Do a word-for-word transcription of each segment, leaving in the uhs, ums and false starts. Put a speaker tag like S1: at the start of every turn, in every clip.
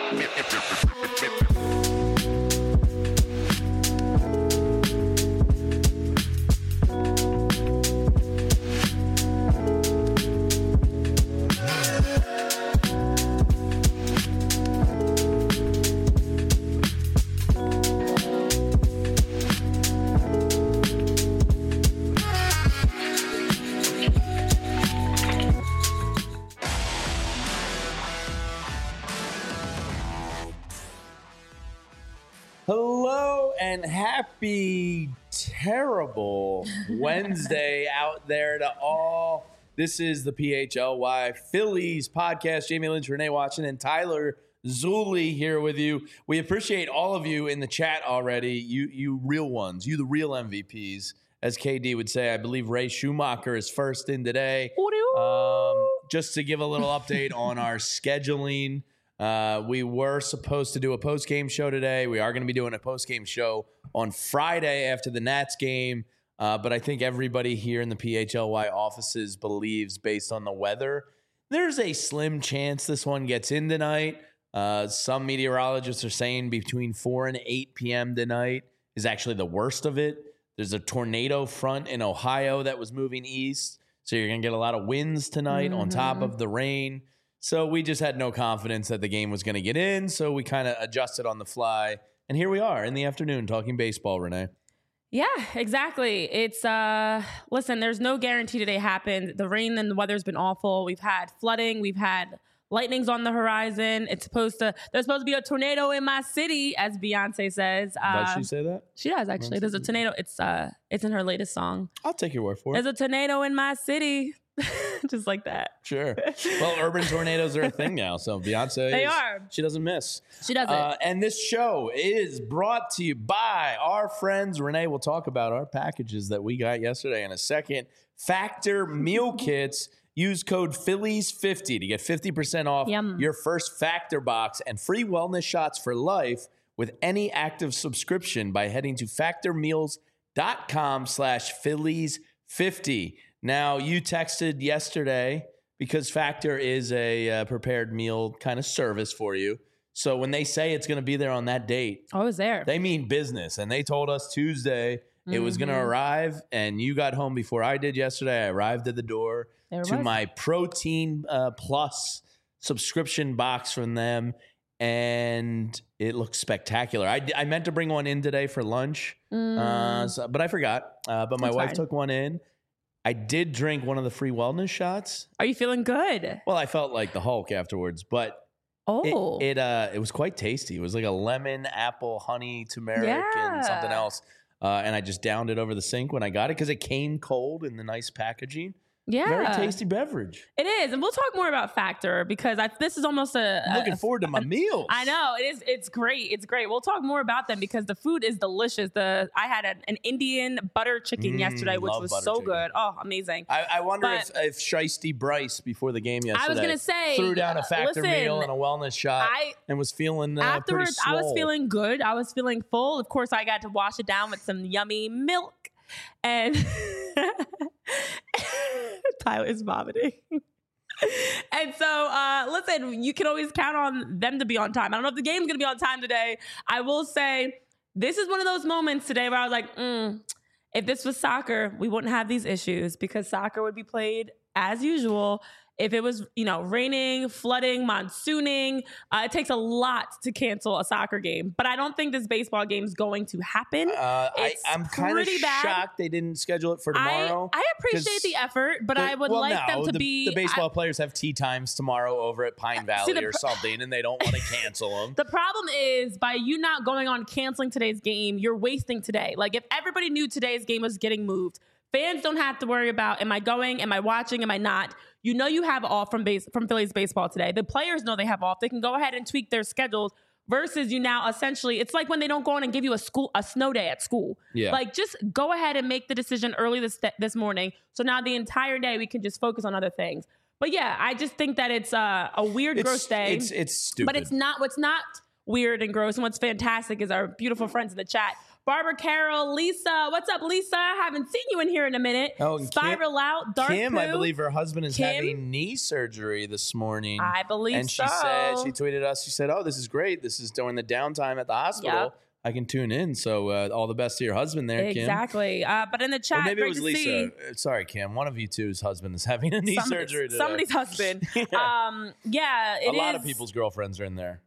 S1: Hello and happy terrible Wednesday out there to all. This is the P H L Y Phillies podcast. Jamie Lynch, Renee Watson, and Tyler Zulli here with you. We appreciate all of you in the chat already. You, you real ones, you the real M V Ps, as K D would say. I believe Ray Schumacher is first in today. Um, just to give a little update on our scheduling. Uh, we were supposed to do a post-game show today. We are going to be doing a post-game show on Friday after the Nats game. Uh, but I think everybody here in the P H L Y offices believes, based on the weather, there's a slim chance this one gets in tonight. Uh, some meteorologists are saying between four and eight p.m. tonight is actually the worst of it. There's a tornado front in Ohio that was moving east. So you're going to get a lot of winds tonight mm-hmm. on top of the rain. So we just had no confidence that the game was going to get in, so we kind of adjusted on the fly. And here we are in the afternoon talking baseball, Renee.
S2: Yeah, exactly. It's, uh, listen, there's no guarantee today happened. The rain and the weather's been awful. We've had flooding. We've had lightnings on the horizon. It's supposed to, there's supposed to be a tornado in my city, as Beyonce says. Uh,
S1: does she say that?
S2: She does, actually. There's a tornado. It's, uh, it's in her latest song.
S1: I'll take your word for it.
S2: There's a tornado in my city. Just like that.
S1: Sure. Well, urban tornadoes are a thing now. So Beyonce,
S2: they
S1: is,
S2: are.
S1: She doesn't miss.
S2: She doesn't.
S1: Uh, and this show is brought to you by our friends. Renee will talk about our packages that we got yesterday in a second. Factor meal kits. Use code Phillies fifty to get fifty percent off
S2: Yum.
S1: your first Factor box and free wellness shots for life with any active subscription by heading to factormeals.com slash Phillies fifty. Now, you texted yesterday because Factor is a uh, prepared meal kind of service for you. So when they say it's going to be there on that date,
S2: I was there.
S1: They mean business. And they told us Tuesday mm-hmm. it was going to arrive, and you got home before I did yesterday. I arrived at the door
S2: there
S1: to
S2: was.
S1: my Protein uh, Plus subscription box from them, and it looks spectacular. I, I meant to bring one in today for lunch, mm. uh, so, but I forgot. Uh, but my
S2: That's
S1: wife
S2: fine.
S1: took one in. I did drink one of the free wellness shots.
S2: Are you feeling good?
S1: Well, I felt like the Hulk afterwards, but
S2: oh,
S1: it, it uh it was quite tasty. It was like a lemon, apple, honey, turmeric,
S2: yeah.
S1: and something else. Uh, and I just downed it over the sink when I got it because it came cold in the nice packaging.
S2: Yeah.
S1: Very tasty beverage.
S2: It is. And we'll talk more about Factor because I, this is almost a...
S1: I'm looking
S2: a,
S1: forward to my
S2: a,
S1: meals.
S2: I know. It is. It's great. It's great. We'll talk more about them because the food is delicious. The I had an, an Indian butter chicken
S1: Mm,
S2: yesterday, which was so
S1: chicken.
S2: good. Oh, amazing.
S1: I, I wonder
S2: But-
S1: if, if Shiesty Bryce, before the game yesterday,
S2: I was gonna say,
S1: threw down a Factor
S2: listen,
S1: meal and a wellness shot
S2: I-
S1: and was feeling uh,
S2: Afterwards,
S1: pretty
S2: I was
S1: swole.
S2: feeling good. I was feeling full. Of course, I got to wash it down with some yummy milk. And Tyler is vomiting. And so, uh, listen, you can always count on them to be on time. I don't know if the game's going to be on time today. I will say this is one of those moments today where I was like, mm, if this was soccer, we wouldn't have these issues because soccer would be played as usual. If it was, you know, raining, flooding, monsooning, uh, it takes a lot to cancel a soccer game. But I don't think this baseball game is going to happen.
S1: Uh, I,
S2: It's
S1: I'm kind of
S2: pretty bad.
S1: shocked they didn't schedule it for tomorrow.
S2: I, I appreciate the effort, but
S1: the-
S2: I would
S1: well,
S2: like
S1: no,
S2: them to
S1: the,
S2: be...
S1: The baseball
S2: I,
S1: players have tea times tomorrow over at Pine Valley
S2: the
S1: or
S2: pr-
S1: something, and they don't want to cancel them.
S2: the problem is, by you not going on canceling today's game, you're wasting today. Like, if everybody knew today's game was getting moved, fans don't have to worry about, am I going, am I watching, am I not? You know you have off from base from Phillies baseball today. The players know they have off. They can go ahead and tweak their schedules versus you now essentially, it's like when they don't go on and give you a school a snow day at school.
S1: Yeah.
S2: Like, just go ahead and make the decision early this this morning. So now the entire day we can just focus on other things. But yeah, I just think that it's uh, a weird,
S1: It's,
S2: gross day.
S1: it's it's stupid.
S2: But it's not, what's not weird and gross and what's fantastic is our beautiful friends in the chat Barbara Carroll, Lisa. What's up, Lisa? Haven't seen you in here in a minute.
S1: Oh, and
S2: Spiral
S1: Kim,
S2: out. Dark
S1: Kim,
S2: Poo.
S1: I believe her husband is
S2: Kim?
S1: having knee surgery this morning.
S2: I believe
S1: and she
S2: so.
S1: said, she tweeted us, she said, oh, this is great. This is during the downtime at the hospital.
S2: Yep.
S1: I can tune in. So uh, all the best to your husband there, Kim.
S2: Exactly. Uh, but in the chat,
S1: Or maybe it
S2: great
S1: was
S2: to
S1: Lisa.
S2: see.
S1: Uh, Sorry, Kim. One of you two's husband is having a knee
S2: Somebody-
S1: surgery today.
S2: Somebody's husband.
S1: Yeah.
S2: Um, yeah, it
S1: a lot
S2: is-
S1: of people's girlfriends are in there.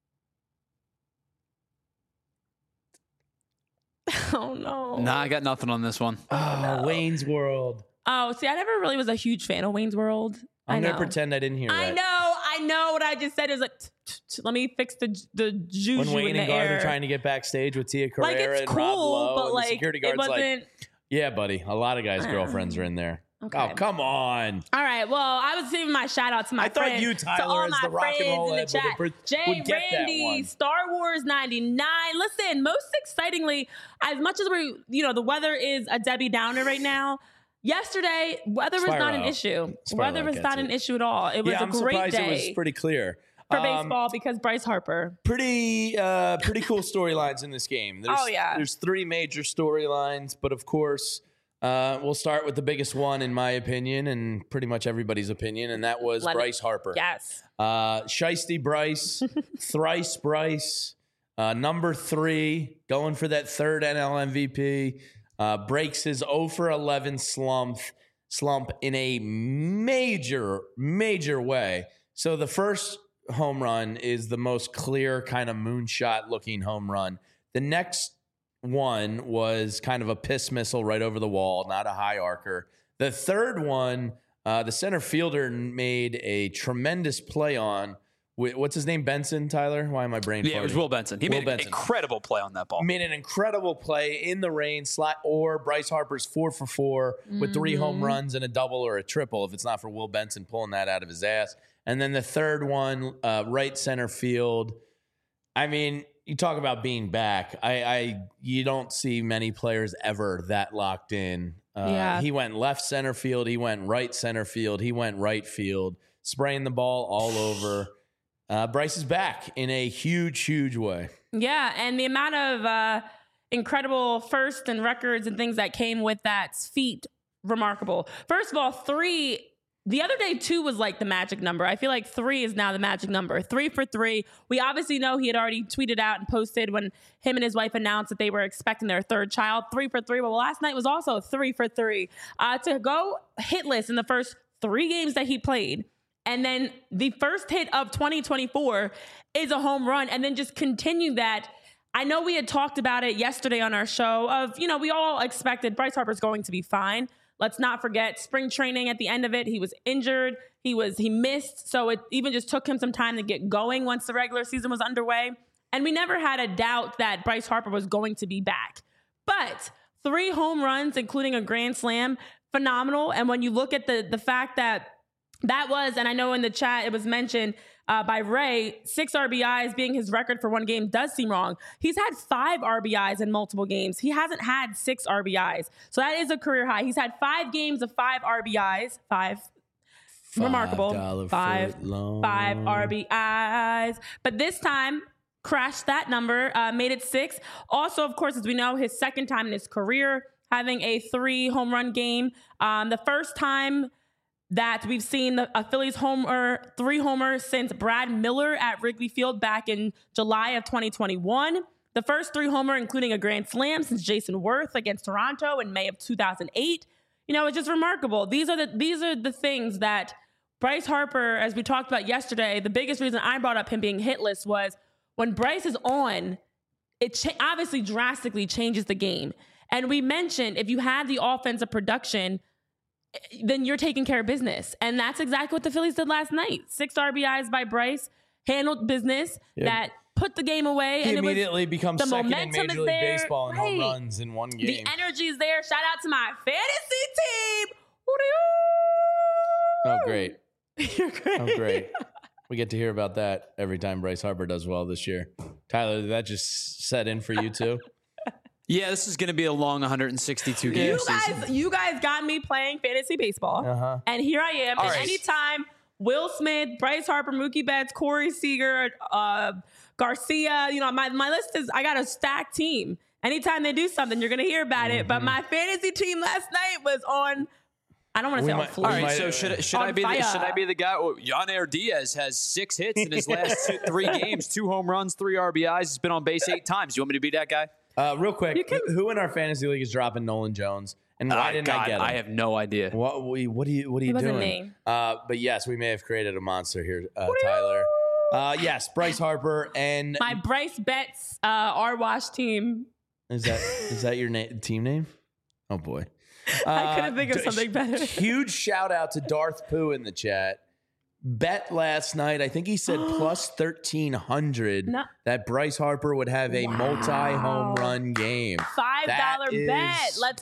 S2: Oh no.
S3: Nah, I got nothing on this one.
S1: Oh,
S2: no.
S1: Wayne's World.
S2: Oh, see, I never really was a huge fan of Wayne's World.
S1: I'm
S2: I
S1: going
S2: know.
S1: to pretend I didn't hear
S2: I
S1: that.
S2: know, I know what I just said. It was like, t- t- t- let me fix the the juju
S1: When Wayne
S2: in the
S1: and Garth
S2: air.
S1: are trying to get backstage with Tia Carrera
S2: like it's
S1: and
S2: cool,
S1: Rob Lowe,
S2: but
S1: and the
S2: like
S1: security
S2: it
S1: guard's like,
S2: wasn't.
S1: yeah, buddy, a lot of guys'
S2: Uh,
S1: girlfriends are in there.
S2: Okay.
S1: Oh, come on.
S2: All right. Well, I was giving my shout out to my
S1: I thought
S2: friends,
S1: you,
S2: to
S1: Tyler,
S2: all
S1: as
S2: my
S1: the rock and
S2: friends
S1: roll
S2: in the
S1: head, would
S2: chat.
S1: have- would
S2: Jay,
S1: get that
S2: Randy,
S1: one.
S2: Star Wars ninety-nine. Listen, most excitingly, as much as we, you know, the weather is a Debbie Downer right now. Yesterday, weather was
S1: Spiral
S2: not an
S1: out.
S2: issue.
S1: Spiral
S2: weather
S1: out
S2: was
S1: gets
S2: not
S1: it.
S2: an issue at all. It was
S1: Yeah,
S2: a
S1: I'm
S2: great
S1: surprised
S2: day
S1: it was pretty clear.
S2: for
S1: Um,
S2: baseball because Bryce Harper.
S1: Pretty, uh, pretty cool storylines in this game. There's,
S2: Oh, yeah.
S1: There's three major storylines, but of course, uh, we'll start with the biggest one, in my opinion, and pretty much everybody's opinion, and that was
S2: Let it-
S1: Bryce Harper.
S2: Yes.
S1: Uh, Shiesty Bryce, thrice Bryce, uh, number three, going for that third N L M V P, uh, breaks his oh for eleven slump, slump in a major, major way. So the first home run is the most clear kind of moonshot looking home run. The next one was kind of a piss missile right over the wall, not a high arcer. The third one, uh, the center fielder made a tremendous play on. What's his name? Benson, Tyler? Why am I brain
S3: Yeah, it was
S1: farting?
S3: Will Benson. He
S1: Will
S3: made an
S1: Benson.
S3: incredible play on that ball.
S1: Made an incredible play in the rain, slot, or Bryce Harper's four for four with three home runs and a double or a triple if it's not for Will Benson pulling that out of his ass. And then the third one, uh, right center field. I mean, you talk about being back. I, I you don't see many players ever that locked in. Uh,
S2: Yeah.
S1: He went left center field. He went right center field. He went right field, spraying the ball all over. Uh, Bryce is back in a huge, huge way.
S2: Yeah, and the amount of uh, incredible firsts and records and things that came with that feat, remarkable. First of all, three. The other day, two was like the magic number. I feel like three is now the magic number. Three for three. We obviously know he had already tweeted out and posted when him and his wife announced that they were expecting their third child. Three for three. Well, last night was also three for three. Uh, to go hitless in the first three games that he played. And then the first hit of twenty twenty-four is a home run. And then just continue that. I know we had talked about it yesterday on our show of, you know, we all expected Bryce Harper's going to be fine. Let's not forget spring training at the end of it. He was injured. He was, he missed. So it even just took him some time to get going once the regular season was underway. And we never had a doubt that Bryce Harper was going to be back. But three home runs, including a grand slam, phenomenal. And when you look at the the fact that that was, and I know in the chat it was mentioned uh, by Ray, six R B Is being his record for one game does seem wrong. He's had five R B Is in multiple games. He hasn't had six R B Is. So that is a career high. He's had five games of five R B Is. Five. Remarkable. Five. Five R B Is. But this time, crashed that number, uh, made it six. Also, of course, as we know, his second time in his career having a three home run game. Um, the first time that we've seen the, a Phillies homer, three homers since Brad Miller at Wrigley Field back in July of twenty twenty-one. The first three homer, including a grand slam since Jason Worth against Toronto in May of two thousand eight. You know, it's just remarkable. These are the these are the things that Bryce Harper, as we talked about yesterday, the biggest reason I brought up him being hitless was when Bryce is on, it cha- obviously drastically changes the game. And we mentioned if you had the offensive production, then you're taking care of business. And that's exactly what the Phillies did last night. Six R B Is by Bryce, handled business
S1: Yep.
S2: that put the game away.
S1: He
S2: and
S1: immediately
S2: it was,
S1: becomes
S2: the
S1: second in
S2: momentum
S1: Major
S2: is
S1: League
S2: there.
S1: Baseball in home
S2: Right.
S1: runs in one game.
S2: The energy is there. Shout out to my fantasy team.
S1: Oh, great.
S2: You're great.
S1: Oh, great. We get to hear about that every time Bryce Harper does well this year. Tyler, did that just set in for you too?
S3: Yeah, this is going to be a long one hundred sixty-two game
S2: You
S3: season.
S2: guys, you guys got me playing fantasy baseball.
S1: Uh-huh.
S2: And here I am.
S3: All
S2: and
S3: right.
S2: anytime Will Smith, Bryce Harper, Mookie Betts, Corey Seager, uh, Garcia, you know, my, my list is, I got a stacked team. anytime they do something, you're going to hear about mm-hmm. it. But my fantasy team last night was on. I don't want to say
S1: might,
S2: on fire.
S3: All right, so should should I be the, should I be the guy? Well, Yanair Diaz has six hits in his last two, three games, two home runs, three R B Is. He's been on base eight times. You want me to be that guy?
S1: Uh, real quick, can, who in our fantasy league is dropping Nolan Jones, and why uh, didn't
S3: God,
S1: I get him?
S3: I have no idea.
S1: What what are you what are you doing? Uh, but yes, we may have created a monster here, uh, Tyler. Uh, yes, Bryce Harper and
S2: my Bryce Betts uh, R Wash team.
S1: Is that is that your na- team name? Oh boy. Uh,
S2: I couldn't think of something better.
S1: Huge shout out to Darth Pooh in the chat. Bet last night, I think he said plus thirteen hundred no. that Bryce Harper would have a wow. multi-home run game.
S2: five dollar bet. Let's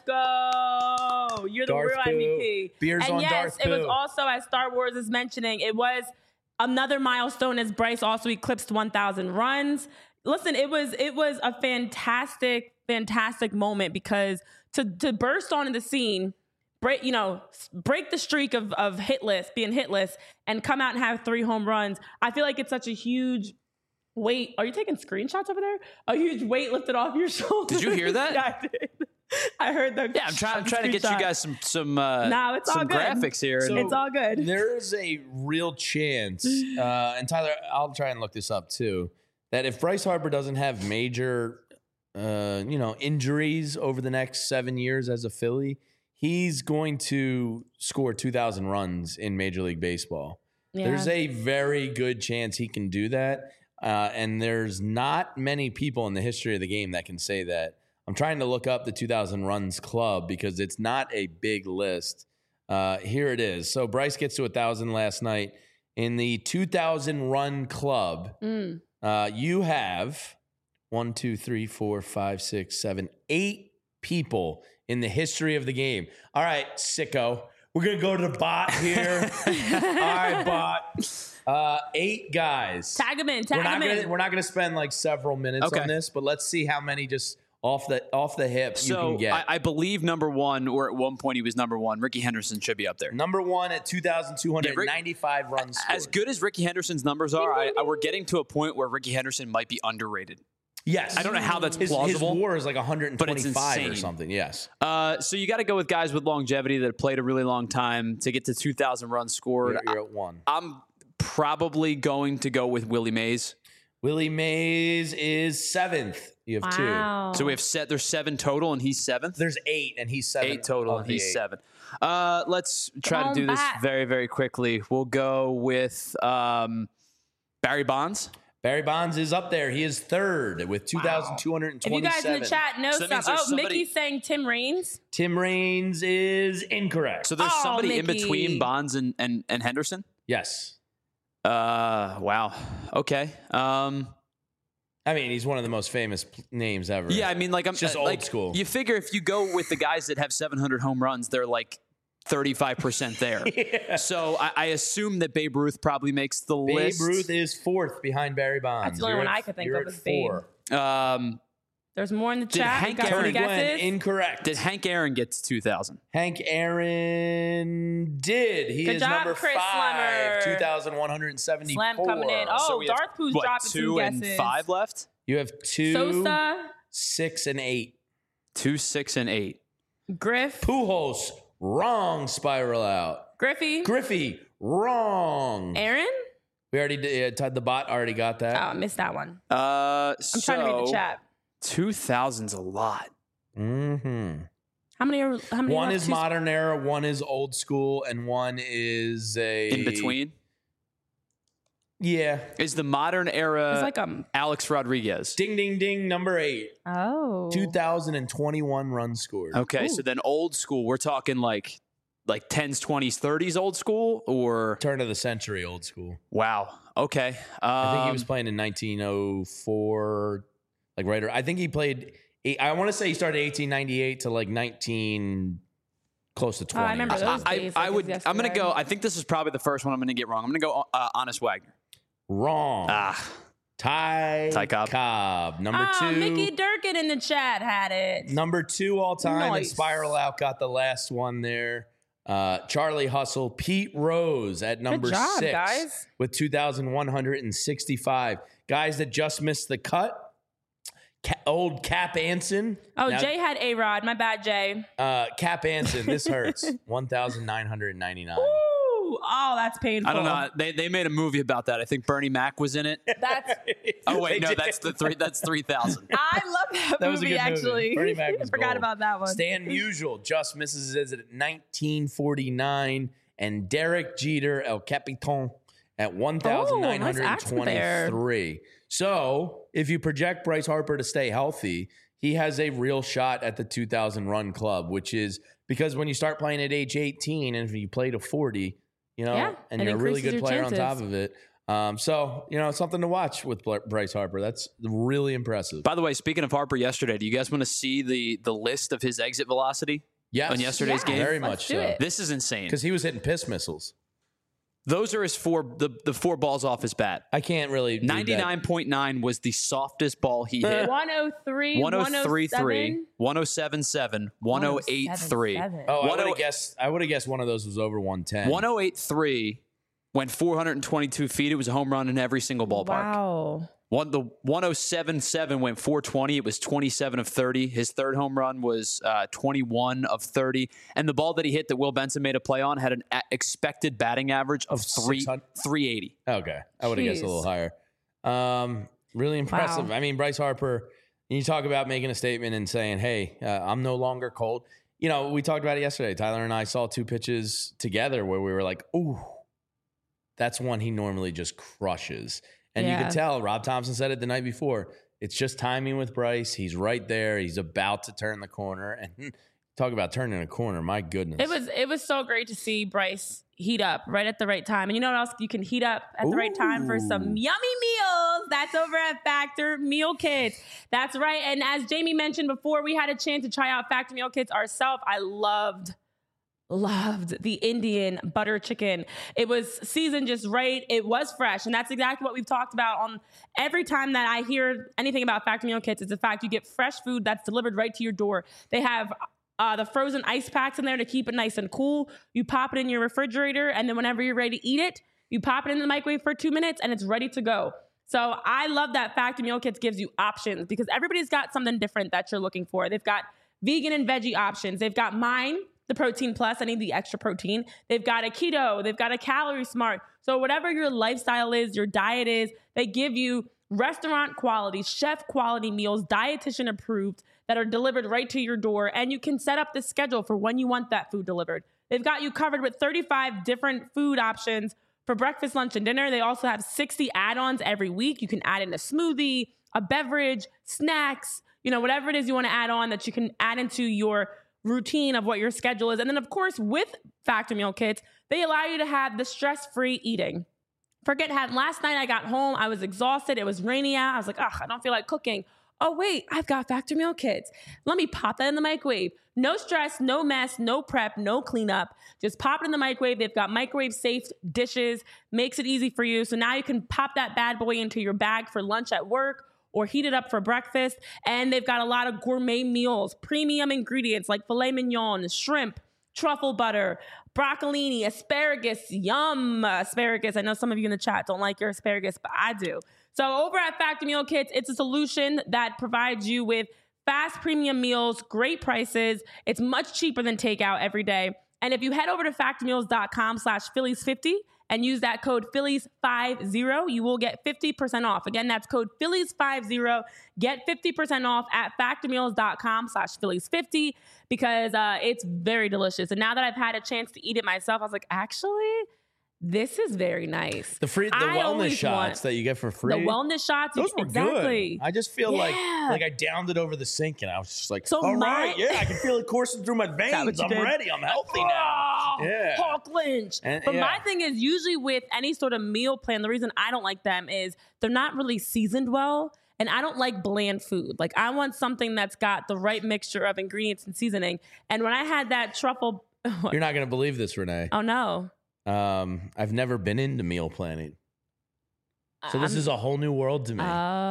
S2: go. You're the
S1: Darth
S2: real
S1: Pooh.
S2: M V P.
S1: Beers
S2: and
S1: on
S2: yes,
S1: Darth
S2: it
S1: Pooh.
S2: was also, as Star Wars is mentioning, it was another milestone as Bryce also eclipsed one thousand runs. Listen, it was it was a fantastic, fantastic moment because to to burst onto the scene, break you know break the streak of of hitless, being hitless, and come out and have three home runs. I feel like it's such a huge weight. Are you taking screenshots over there? A huge weight lifted off your shoulders.
S3: Did you hear that?
S2: Yeah, I did. I heard that.
S3: Yeah, I'm trying. I'm trying to get you guys some some uh,
S2: no, it's
S3: some
S2: all good.
S3: graphics here.
S2: So it's all good.
S1: There is a real chance, uh, and Tyler, I'll try and look this up too, that if Bryce Harper doesn't have major, uh, you know, injuries over the next seven years as a Philly, he's going to score two thousand runs in Major League Baseball. Yeah. There's a very good chance he can do that, uh, and there's not many people in the history of the game that can say that. I'm trying to look up the two thousand runs club because it's not a big list. Uh, here it is. So Bryce gets to one thousand last night. In the two thousand run club, mm. uh, you have one, two, three, four, five, six, seven, eight people in the history of the game. All right, sicko. We're going to go to the bot here. All right, bot. Uh, eight guys.
S2: Tag them in. Tag
S1: we're not
S2: them
S1: gonna,
S2: in.
S1: We're not going to spend like several minutes
S3: okay.
S1: on this, but let's see how many just off the off the hip
S3: so
S1: you can get.
S3: I, I believe number one, or at one point he was number one. Ricky Henderson should be up there.
S1: Number one at two thousand two hundred ninety-five yeah, Rick, runs scored.
S3: As good as Ricky Henderson's numbers are, I, I, we're getting to a point where Ricky Henderson might be underrated.
S1: Yes.
S3: I don't know how that's
S1: his,
S3: plausible.
S1: His WAR is like one twenty-five or something. Yes.
S3: Uh, so you got to go with guys with longevity that have played a really long time to get to two thousand runs scored.
S1: You're, you're at one.
S3: I'm probably going to go with Willie Mays.
S1: Willie Mays is seventh. You have
S2: wow.
S1: two.
S3: So we have set. There's seven total, and he's seventh.
S1: There's eight, and he's seven.
S3: Eight total, and he's
S1: eight.
S3: seven. Uh, let's try
S2: Come
S3: to do
S2: back.
S3: this very, very quickly. We'll go with um, Barry Bonds.
S1: Barry Bonds is up there. He is third with two thousand two hundred twenty-seven.
S2: If you guys in the chat know
S3: so
S2: something. Oh,
S3: somebody,
S2: Mickey's saying Tim Raines.
S1: Tim Raines is incorrect.
S3: So there's
S2: oh,
S3: somebody
S2: Mickey.
S3: in between Bonds and, and, and Henderson?
S1: Yes.
S3: Uh, wow. Okay. Um,
S1: I mean, he's one of the most famous p- names ever.
S3: Yeah, I mean, like, I'm
S1: it's just
S3: uh,
S1: old
S3: like,
S1: school.
S3: You figure if you go with the guys that have seven hundred home runs, they're like thirty-five percent there.
S1: yeah.
S3: So I, I assume that Babe Ruth probably makes the
S1: Babe
S3: list.
S1: Babe Ruth is fourth behind Barry Bonds.
S2: That's the only
S1: you're
S2: one
S1: at,
S2: I could think
S1: you're
S2: of
S1: at
S2: as
S1: four.
S3: Um,
S2: There's more in the
S3: Did
S2: chat.
S3: Hank
S2: Got
S3: Aaron
S2: some
S1: Glenn,
S2: guesses?
S1: incorrect.
S3: Did Hank Aaron get to two thousand?
S1: Hank Aaron did. He
S2: Good
S1: is
S2: job,
S1: number
S2: Chris
S1: five,
S2: Slemmer.
S1: two thousand one hundred seventy-four.
S2: Slam coming in. Oh,
S3: So we have,
S2: Darth Pooh's
S3: what,
S2: dropping
S3: two
S2: some
S3: and
S2: guesses.
S3: five left?
S1: You have two,
S2: Sosa,
S1: six, and eight.
S3: Two, six, and eight.
S2: Griff,
S1: Pujols, wrong. Spiral out.
S2: Griffey,
S1: Griffey, wrong.
S2: Aaron.
S1: We already did. Uh, the bot already got that.
S2: Oh, I missed that one.
S3: Uh,
S2: I'm trying to read the chat.
S3: two thousand's a lot.
S1: Mm-hmm.
S2: How many are how many?
S1: One
S2: left?
S1: is
S2: Two-
S1: modern era, one is old school, and one is a
S3: In between?
S1: Yeah.
S3: Is the modern era
S2: It's like um.
S3: Alex Rodriguez?
S1: Ding, ding, ding. Number eight.
S2: Oh.
S1: two thousand twenty-one runs scored.
S3: Okay,
S2: Ooh.
S3: so then old school, we're talking like like tens, twenties, thirties old school, or
S1: Turn of the century, old school.
S3: wow. Okay. Um,
S1: I think he was playing in nineteen oh four, like right. I think he played. I want to say he started eighteen ninety-eight to like nineteen, close to twenty.
S2: I remember those
S3: I,
S2: days.
S3: I
S2: like
S3: would.
S2: it was
S3: I'm gonna
S2: yesterday.
S3: go. I think this is probably the first one I'm gonna get wrong. I'm gonna go uh, Honest Wagner.
S1: Wrong.
S3: Ah,
S1: Ty,
S3: Ty Cobb.
S1: Cobb. Number
S2: Oh,
S1: two.
S2: Mickey Durkin in the chat had it.
S1: Number two all time. And
S2: Nice.
S1: Spiral Out got the last one there. Uh, Charlie Hustle. Pete Rose at number
S2: job,
S1: six
S2: guys.
S1: with two thousand one hundred sixty-five. Guys that just missed the cut. Ca- old Cap Anson.
S2: Oh,
S1: Now,
S2: Jay had A-Rod. My bad, Jay.
S1: Uh, Cap Anson, this hurts. one thousand nine hundred ninety-nine.
S2: Ooh, oh, that's painful.
S3: I don't know. They they made a movie about that. I think Bernie Mac was in it.
S2: That's.
S3: Oh wait, no, that's the three. That's three thousand.
S2: I love that,
S1: That was a
S2: movie.
S1: good movie.
S2: Actually,
S1: Bernie Mac was
S2: forgot
S1: gold.
S2: about that one.
S1: Stan Musial just misses his at nineteen forty-nine. And Derek Jeter, El Capitan, at one thousand nine hundred twenty-three. So if you project Bryce Harper to stay healthy, he has a real shot at the two thousand run club, which is because when you start playing at age eighteen and if you play to forty, you know,
S2: Yeah,
S1: and
S2: it
S1: you're a really
S2: increases
S1: good
S2: your
S1: player
S2: chances.
S1: on top of it. Um, so, you know, something to watch with Bl- Bryce Harper. That's really impressive.
S3: By the way, speaking of Harper yesterday, do you guys want to see the the list of his exit velocity
S1: Yes.
S3: on yesterday's
S2: Yeah.
S3: game?
S1: Very
S2: Let's
S1: much
S2: do
S1: so.
S2: it.
S3: This is insane.
S1: Because he was hitting piss missiles.
S3: Those are his four the, the four balls off his bat.
S1: I can't really read that.
S3: ninety-nine point nine was the softest ball he hit.
S2: one oh three,
S3: one oh three point three, one oh seven point seven, one oh eight point three.
S1: Oh, I would
S3: ten-
S1: have guessed. I would have guessed one of those was over one ten.
S3: one oh eight point three went four hundred twenty-two feet. It was a home run in every single ballpark.
S2: Wow.
S3: One the one oh seven point seven went four twenty. It was twenty-seven of thirty. His third home run was uh, twenty-one of thirty. And the ball that he hit that Will Benson made a play on had an a- expected batting average of three
S1: six hundred
S3: three eighty.
S1: Okay, I would have guessed a
S2: Jeez.
S1: little higher. Um, really impressive.
S2: Wow.
S1: I mean, Bryce Harper. You talk about making a statement and saying, "Hey, uh, I'm no longer cold." You know, we talked about it yesterday. Tyler and I saw two pitches together where we were like, "Ooh, that's one he normally just crushes." And you
S2: Yeah.
S1: could tell. Rob Thompson said it the night before. It's just timing with Bryce. He's right there. He's about to turn the corner. And talk about turning a corner. My goodness.
S2: It was it was so great to see Bryce heat up right at the right time. And you know what else you can heat up at the right time for some
S1: Ooh.
S2: yummy meals? That's over at Factor Meal Kits. That's right. And as Jamie mentioned before, we had a chance to try out Factor Meal Kits ourselves. I loved Loved the Indian butter chicken. It was seasoned just right. It was fresh. And that's exactly what we've talked about on every time that I hear anything about Factor Meal Kits. It's the fact you get fresh food that's delivered right to your door. They have uh, the frozen ice packs in there to keep it nice and cool. You pop it in your refrigerator, and then whenever you're ready to eat it, you pop it in the microwave for two minutes, and it's ready to go. So I love that Factor Meal Kits gives you options because everybody's got something different that you're looking for. They've got vegan and veggie options. They've got mine, the Protein Plus. I need the extra protein. They've got a keto. They've got a Calorie Smart. So whatever your lifestyle is, your diet is, they give you restaurant quality, chef quality meals, dietitian approved that are delivered right to your door. And you can set up the schedule for when you want that food delivered. They've got you covered with thirty-five different food options for breakfast, lunch, and dinner. They also have sixty add-ons every week. You can add in a smoothie, a beverage, snacks, you know, whatever it is you want to add on that you can add into your routine of what your schedule is. And then, of course, with Factor Meal Kits, they allow you to have the stress-free eating. Forget had last night I got home, I was exhausted, it was rainy out, I was like, ugh, I don't feel like cooking. Oh, wait, I've got Factor Meal Kits. Let me pop that in the microwave. No stress, no mess, no prep, no cleanup. Just pop it in the microwave. They've got microwave-safe dishes. Makes it easy for you. So now you can pop that bad boy into your bag for lunch at work or heat it up for breakfast. And they've got a lot of gourmet meals, premium ingredients like filet mignon, shrimp, truffle butter, broccolini, asparagus, yum, asparagus. I know some of you in the chat don't like your asparagus, but I do. So over at Factor Meal Kits, it's a solution that provides you with fast premium meals, great prices. It's much cheaper than takeout every day. And if you head over to factormeals.com slash Phillies fifty and use that code Phillies fifty, you will get fifty percent off. Again, that's code Phillies fifty. Get fifty percent off at factormeals.com slash Phillies fifty because uh, it's very delicious. And now that I've had a chance to eat it myself, I was like, actually, this is very nice.
S1: The free, the
S2: I
S1: wellness
S2: always
S1: shots
S2: want
S1: that you get for free.
S2: The wellness shots,
S1: Those were
S2: exactly.
S1: good. I just feel like
S2: Yeah.
S1: like I downed it over the sink and I was just like,
S2: So
S1: all
S2: my-
S1: right, yeah, I can feel it coursing through my
S2: that
S1: veins.
S2: what you
S1: I'm
S2: did?
S1: ready. I'm healthy now.
S2: Oh,
S1: Yeah.
S2: Hawk Lynch.
S1: And-
S2: but
S1: yeah.
S2: my thing is usually with any sort of meal plan, the reason I don't like them is they're not really seasoned well. And I don't like bland food. Like I want something that's got the right mixture of ingredients and seasoning. And when I had that truffle,
S1: You're not going to believe this, Renee.
S2: oh no.
S1: Um, I've never been into meal planning. So this
S2: I'm-
S1: is a whole new world to me.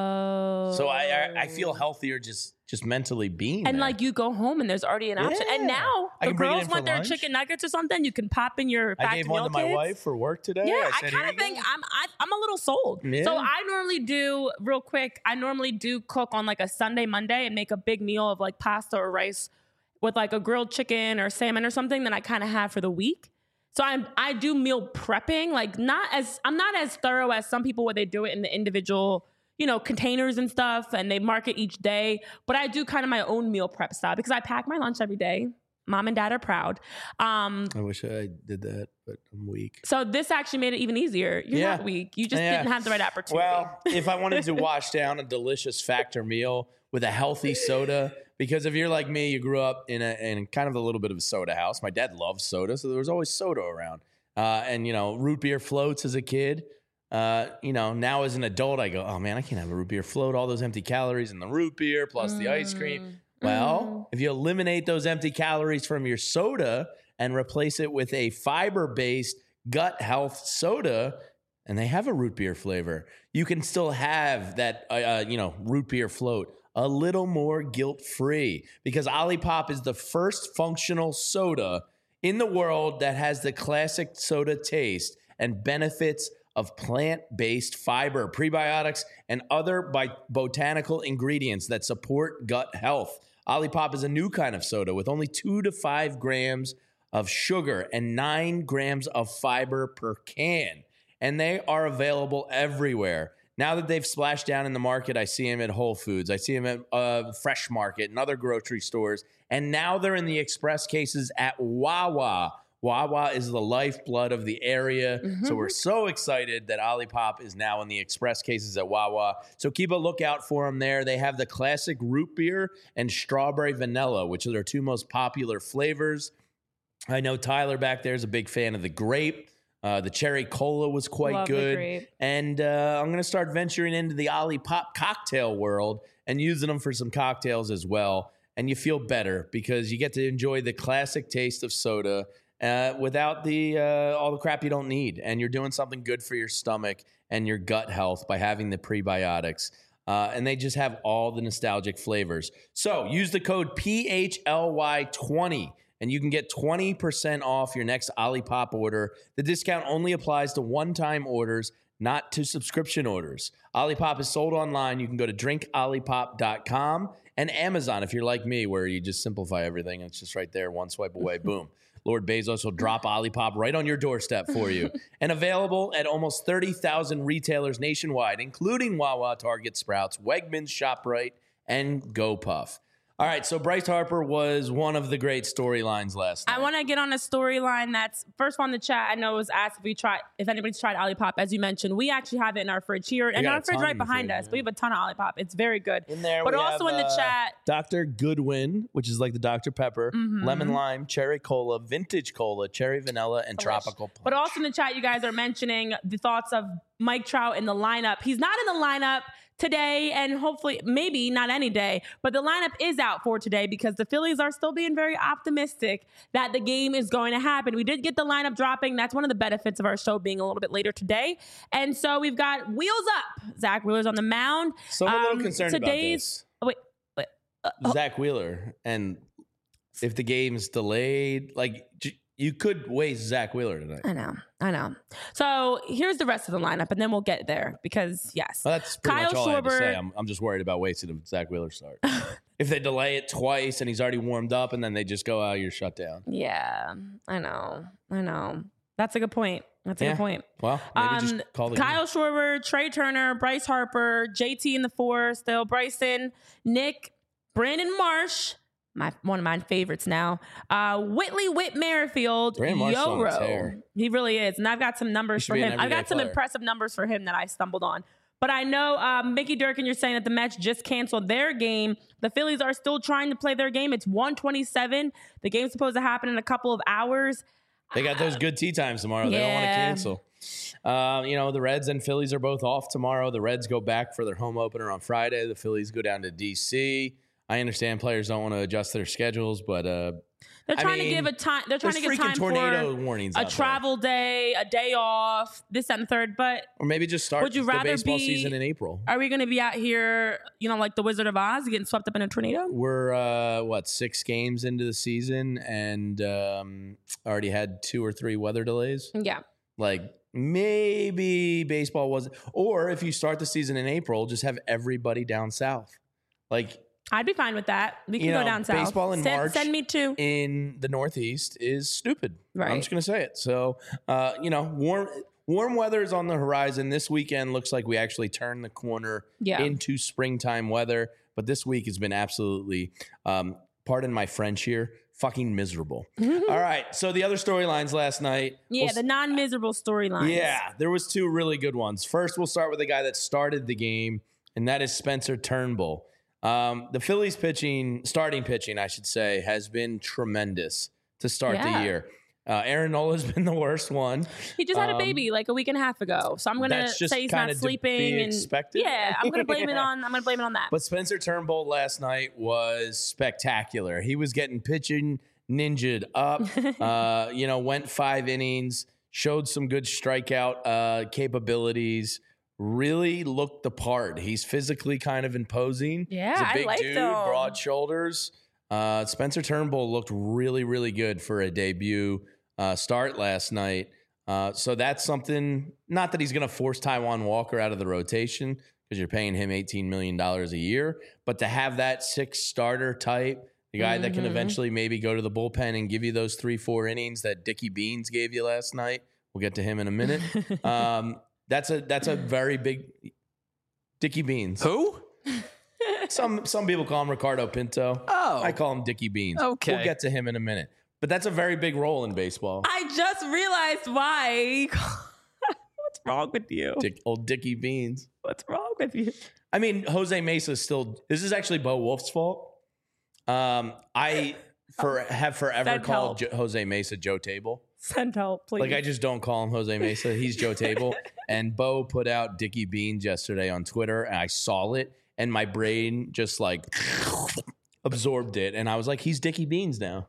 S2: Oh.
S1: so I, I I feel healthier just just mentally being
S2: And
S1: there.
S2: like you go home and there's already an option. And
S1: Yeah.
S2: now
S1: I
S2: the
S1: can bring it
S2: girls
S1: in for
S2: want their
S1: lunch.
S2: chicken nuggets or something. You can pop in your
S1: I
S2: back
S1: gave
S2: to
S1: one
S2: meal
S1: to my
S2: kits.
S1: wife for work today.
S2: Yeah, I,
S1: said,
S2: kind
S1: "Here
S2: of
S1: you
S2: think
S1: go."
S2: I'm I, I'm a little sold.
S1: Yeah.
S2: So I normally do real quick. I normally do cook on like a Sunday, Monday, and make a big meal of like pasta or rice with like a grilled chicken or salmon or something that I kind of have for the week. So I'm I do meal prepping, like not as I'm not as thorough as some people where they do it in the individual, you know, containers and stuff, and they mark it each day. But I do kind of my own meal prep style because I pack my lunch every day. Mom and dad are proud. Um,
S1: I wish I did that, but I'm weak.
S2: so this actually made it even easier. You're
S1: Yeah.
S2: not weak. You just
S1: Yeah.
S2: didn't have the right opportunity.
S1: Well, if I wanted to wash down a delicious Factor meal with a healthy soda, because if you're like me, you grew up in a in kind of a little bit of a soda house. My dad loved soda, so there was always soda around. Uh, and you know, root beer floats as a kid. Uh, you know, now as an adult, I go, oh man, I can't have a root beer float. All those empty calories in the root beer plus the ice cream. Well, if you eliminate those empty calories from your soda and replace it with a fiber-based gut health soda, and they have a root beer flavor, you can still have that, uh, uh, you know, root beer float a little more guilt-free, because Olipop is the first functional soda in the world that has the classic soda taste and benefits of plant-based fiber, prebiotics, and other bi- botanical ingredients that support gut health. Olipop is a new kind of soda with only two to five grams of sugar and nine grams of fiber per can. And they are available everywhere. Now that they've splashed down in the market, I see them at Whole Foods. I see them at uh, Fresh Market and other grocery stores. And now they're in the express cases at Wawa. Wawa is the lifeblood of the area.
S2: Mm-hmm.
S1: So we're so excited that Olipop is now in the express cases at Wawa. So keep a lookout for them there. They have the classic root beer and strawberry vanilla, which are their two most popular flavors. I know Tyler back there is a big fan of the grape. Uh, the cherry cola was quite
S2: Love the
S1: good.
S2: grape.
S1: And uh, I'm going to start venturing into the Olipop cocktail world and using them for some cocktails as well. And you feel better because you get to enjoy the classic taste of soda Uh, without the uh, all the crap you don't need, and you're doing something good for your stomach and your gut health by having the prebiotics. Uh, and they just have all the nostalgic flavors. So use the code P H L Y twenty, and you can get twenty percent off your next Olipop order. The discount only applies to one-time orders, not to subscription orders. Olipop is sold online. You can go to drink olipop dot com and Amazon if you're like me, where you just simplify everything. It's just right there, one swipe away, boom. Lord Bezos will drop Olipop right on your doorstep for you. And available at almost thirty thousand retailers nationwide, including Wawa, Target, Sprouts, Wegmans, ShopRite, and GoPuff. All right, so Bryce Harper was one of the great storylines last night.
S2: I want to get on a storyline that's first on the chat. I know it was asked if we tried, if anybody's tried Olipop. As you mentioned, we actually have it in our fridge here and
S1: got
S2: our
S1: a
S2: fridge
S1: ton
S2: right
S1: in the
S2: behind
S1: fridge,
S2: us.
S1: yeah.
S2: We have a ton of Olipop. It's very good.
S1: In there,
S2: but
S1: we
S2: also
S1: have,
S2: in the
S1: uh,
S2: chat,
S1: Doctor Goodwin, which is like the Doctor Pepper,
S2: Mm-hmm.
S1: lemon lime, cherry cola, vintage cola, cherry vanilla, and tropical punch.
S2: But also in the chat, you guys are mentioning the thoughts of Mike Trout in the lineup. He's not in the lineup today, and hopefully, maybe not any day, but the lineup is out for today because the Phillies are still being very optimistic that the game is going to happen. We did get the lineup dropping. That's one of the benefits of our show being a little bit later today. And so we've got Wheels Up. Zach Wheeler's on the mound.
S1: So I'm a little
S2: Um,
S1: concerned
S2: today's,
S1: about
S2: Wait, wait.
S1: this. Zach Wheeler, and if the game's delayed, like j- you could waste Zach Wheeler tonight.
S2: I know, I know. So here's the rest of the lineup, and then we'll get there because, yes.
S1: Well, that's pretty
S2: Kyle
S1: much all I have to
S2: Schwarber-
S1: say. I'm, I'm just worried about wasting a Zach Wheeler start. If they delay it twice and he's already warmed up, and then they just go, "Oh, you're shut down."
S2: Yeah, I know, I know. That's a good point. That's a
S1: Yeah.
S2: good point.
S1: Well, maybe
S2: Um,
S1: just call the
S2: Kyle Schwarber, Trey Turner, Bryce Harper, J T in the four, still Bryson, Nick, Brandon Marsh, my one of my favorites now. Uh, Whitley Whit Merrifield,
S1: Brandon Marsh is on a tear.
S2: Yoro. He really is, and I've got some numbers
S1: He should
S2: for
S1: be an
S2: him. I've got
S1: everyday
S2: some
S1: player.
S2: impressive numbers for him that I stumbled on. But I know, um, Mickey Durkin, you're saying that the Mets just canceled their game. The Phillies are still trying to play their game. It's one twenty-seven. The game's supposed to happen in a couple of hours.
S1: They got those good tea times tomorrow. They don't want to
S2: Yeah.
S1: cancel. Um, you know, the Reds and Phillies are both off tomorrow. The Reds go back for their home opener on Friday. The Phillies go down to D C. I understand players don't want to adjust their schedules, but uh,
S2: they're trying
S1: I mean,
S2: to give a time. They're trying to give time
S1: tornado
S2: for
S1: warnings
S2: a travel day, a day off, this and the third. But
S1: or maybe just start
S2: would you
S1: the
S2: rather
S1: baseball
S2: be,
S1: season in April.
S2: Are we going to be out here, you know, like the Wizard of Oz, getting swept up in a tornado?
S1: We're uh, what six games into the season, and um, already had two or three weather delays.
S2: Yeah,
S1: like maybe baseball wasn't. Or if you start the season in April, just have everybody down south, like.
S2: I'd be fine with that. We can
S1: You
S2: go
S1: know,
S2: down south.
S1: baseball in
S2: send,
S1: March
S2: Send me too.
S1: In the Northeast is stupid.
S2: Right.
S1: I'm just going to say it. So, uh, you know, warm warm weather is on the horizon. This weekend looks like we actually turned the corner
S2: Yeah.
S1: into springtime weather. But this week has been absolutely, um, pardon my French here, fucking miserable. All right. So the other storylines last night.
S2: Yeah,
S1: we'll
S2: the non-miserable storylines.
S1: Yeah, there was two really good ones. First, we'll start with the guy that started the game, and that is Spencer Turnbull. Um, the Phillies pitching, starting pitching, I should say, has been tremendous to start
S2: Yeah.
S1: the year. Uh, Aaron Nola's been the worst one.
S2: He just had
S1: Um,
S2: a baby like a week and a half ago, so I'm gonna
S1: That's just
S2: say he's not
S1: kinda to
S2: sleeping.
S1: be
S2: and
S1: expected.
S2: yeah, I'm gonna blame it
S1: Yeah.
S2: on. I'm gonna blame it on that.
S1: But Spencer Turnbull last night was spectacular. He was getting pitching ninja'd up. uh, you know, went five innings, showed some good strikeout uh, capabilities. Really looked the part. He's physically kind of imposing.
S2: Yeah,
S1: He's a
S2: I
S1: big
S2: liked
S1: dude,
S2: him.
S1: broad shoulders. Uh, Spencer Turnbull looked really, really good for a debut uh, start last night. Uh, so that's something, not that he's going to force Taijuan Walker out of the rotation because you're paying him eighteen million dollars a year, but to have that six starter type, the guy that can
S2: Mhm.
S1: eventually maybe go to the bullpen and give you those three, four innings that Dickie Beans gave you last night. We'll get to him in a minute. um, That's a that's a very big Dickie Beans.
S3: Who?
S1: Some some people call him Ricardo Pinto.
S3: Oh.
S1: I call him Dickie Beans.
S3: Okay.
S1: We'll get to him in a minute. But that's a very big role in baseball.
S2: I just realized why. What's wrong with you?
S1: Dick, old Dickie Beans.
S2: What's wrong with you?
S1: I mean, Jose Mesa still. This is actually Bo Wolf's fault. Um, I for have forever
S2: Send
S1: called
S2: help.
S1: Jo- Jose Mesa Joe Table.
S2: Send help, please.
S1: Like I just don't call him Jose Mesa. He's Joe Table. And Bo put out Dickie Beans yesterday on Twitter, and I saw it, and my brain just like absorbed it, and I was like, he's Dickie Beans now.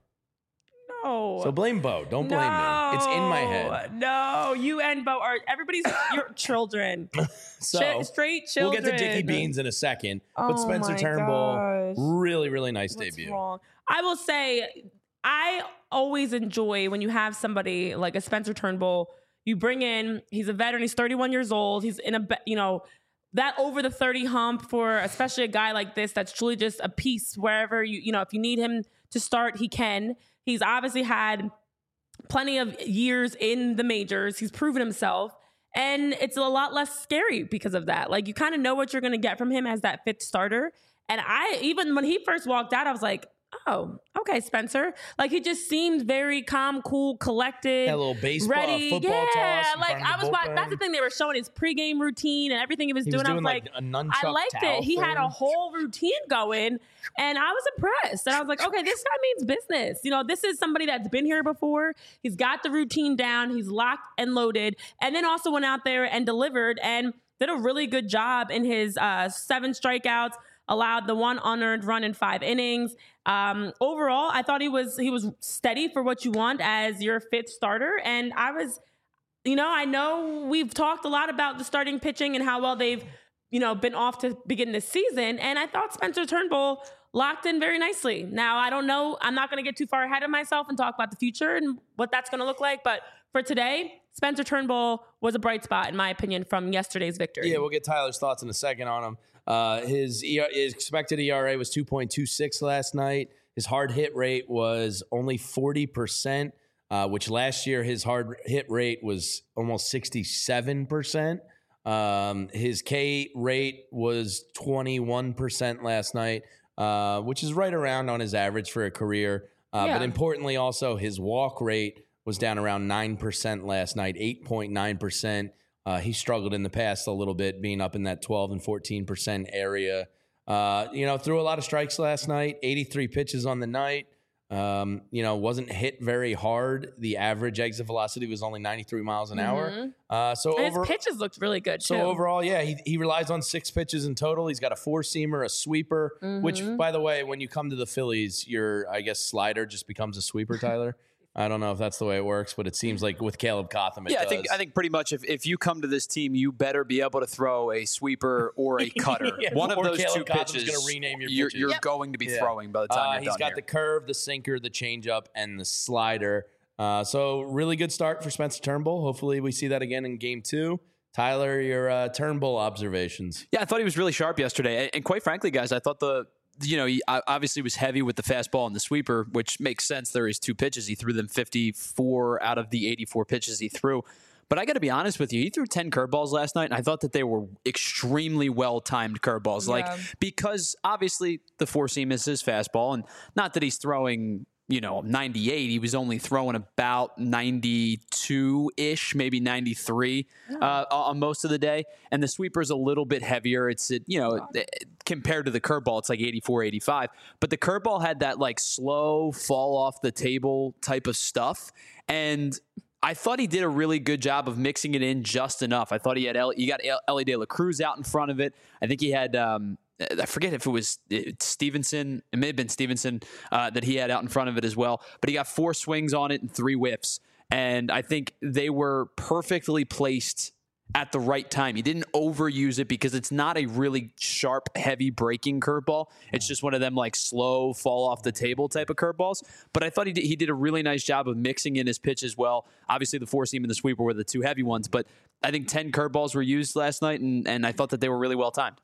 S2: no.
S1: So blame Bo. Don't blame
S2: no.
S1: me. It's in my head.
S2: No, you and Bo are everybody's your children.
S1: So
S2: Ch- straight children.
S1: we'll get to Dickie Beans in a second.
S2: Oh
S1: but Spencer
S2: my
S1: Turnbull,
S2: gosh.
S1: really, really nice
S2: What's
S1: debut.
S2: wrong? I will say, I always enjoy when you have somebody like a Spencer Turnbull. You bring in, he's a veteran. He's thirty-one years old. He's in a, be- you know, that over the thirty hump for especially a guy like this that's truly just a piece wherever you, you know, if you need him to start, he can. He's obviously had plenty of years in the majors. He's proven himself. And it's a lot less scary because of that. Like, you kind of know what you're going to get from him as that fifth starter. And I, even when he first walked out, I was like, oh, okay, Spencer. Like, he just seemed very calm, cool, collected.
S1: That little baseball,
S2: ready.
S1: football
S2: yeah,
S1: toss in
S2: like
S1: front of
S2: I
S1: the
S2: was watching.
S1: bullpen.
S2: That's the thing, they were showing his pregame routine and everything he was
S1: He
S2: doing.
S1: was doing
S2: I was
S1: like,
S2: like,
S1: a nunchuck
S2: I liked
S1: towel
S2: it. He had a
S1: thing.
S2: whole routine going, and I was impressed. And I was like, okay, this guy means business. You know, this is somebody that's been here before. He's got the routine down. He's locked and loaded, and then also went out there and delivered and did a really good job in his uh, seven strikeouts. Allowed the one unearned run in five innings. Um, overall, I thought he was he was steady for what you want as your fifth starter, and I was. You know, I know we've talked a lot about the starting pitching and how well they've, you know, been off to begin this season. And I thought Spencer Turnbull locked in very nicely. Now, I don't know. I'm not going to get too far ahead of myself and talk about the future and what that's going to look like. But for today, Spencer Turnbull was a bright spot, in my opinion, from yesterday's victory.
S1: Yeah, we'll get Tyler's thoughts in a second on him. Uh, his, E R, his expected E R A was two point two six last night. His hard hit rate was only forty percent. Uh, which last year his hard hit rate was almost sixty-seven percent. Um, his K rate was twenty-one percent last night, uh, which is right around on his average for a career. Uh,
S2: Yeah.
S1: But importantly, also his walk rate was down around nine percent last night, eight point nine percent. Uh, he struggled in the past a little bit, being up in that twelve and fourteen percent area. Uh, you know, threw a lot of strikes last night, eighty-three pitches on the night. Um, you know, wasn't hit very hard. The average exit velocity was only ninety-three miles an hour. Uh, so
S2: And
S1: over,
S2: his pitches looked really good
S1: so
S2: too.
S1: overall, yeah, he, he relies on six pitches in total. He's got a four seamer, a sweeper, which, by the way, when you come to the Phillies, your, I guess, slider just becomes a sweeper, Tyler. I don't know if that's the way it works, but it seems like with Caleb Cotham, it
S3: Yeah,
S1: does.
S3: I think I think pretty much if, if you come to this team, you better be able to throw a sweeper or a cutter.
S1: Yeah,
S3: One of
S1: or
S3: those
S1: Caleb
S3: two
S1: Cotham's
S3: pitches,
S1: gonna rename your
S3: you're,
S1: pitches.
S3: you're
S2: Yep.
S3: going to be
S1: Yeah.
S3: throwing by the time
S1: Uh,
S3: you're
S1: he's
S3: done
S1: got
S3: here.
S1: the curve, the sinker, the changeup, and the slider. Uh, so really good start for Spencer Turnbull. Hopefully we see that again in game two. Tyler, your uh, Turnbull observations.
S3: Yeah, I thought he was really sharp yesterday. And, and quite frankly, guys, I thought the, you know, he obviously was heavy with the fastball and the sweeper, which makes sense. There is two pitches. He threw them fifty-four out of the eighty-four pitches he threw. But I got to be honest with you, he threw ten curveballs last night, and I thought that they were extremely well-timed curveballs.
S2: Yeah.
S3: Like, because obviously the four seam is his fastball, and not that he's throwing, you know, ninety-eight. He was only throwing about ninety-two-ish, maybe ninety-three uh, on most of the day. And the sweeper's a little bit heavier. It's, you know, compared to the curveball, it's like eighty-four, eighty-five. But the curveball had that, like, slow fall off the table type of stuff. And I thought he did a really good job of mixing it in just enough. I thought he had, he got Ellie De La Cruz out in front of it. I think he had, um, I forget if it was Stevenson. It may have been Stevenson uh, that he had out in front of it as well. But he got four swings on it and three whiffs. And I think they were perfectly placed at the right time. He didn't overuse it because it's not a really sharp, heavy breaking curveball. It's just one of them like slow, fall off the table type of curveballs. But I thought he did, he did a really nice job of mixing in his pitch as well. Obviously, the four seam and the sweeper were the two heavy ones. But I think ten curveballs were used last night, and, and I thought that they were really well timed.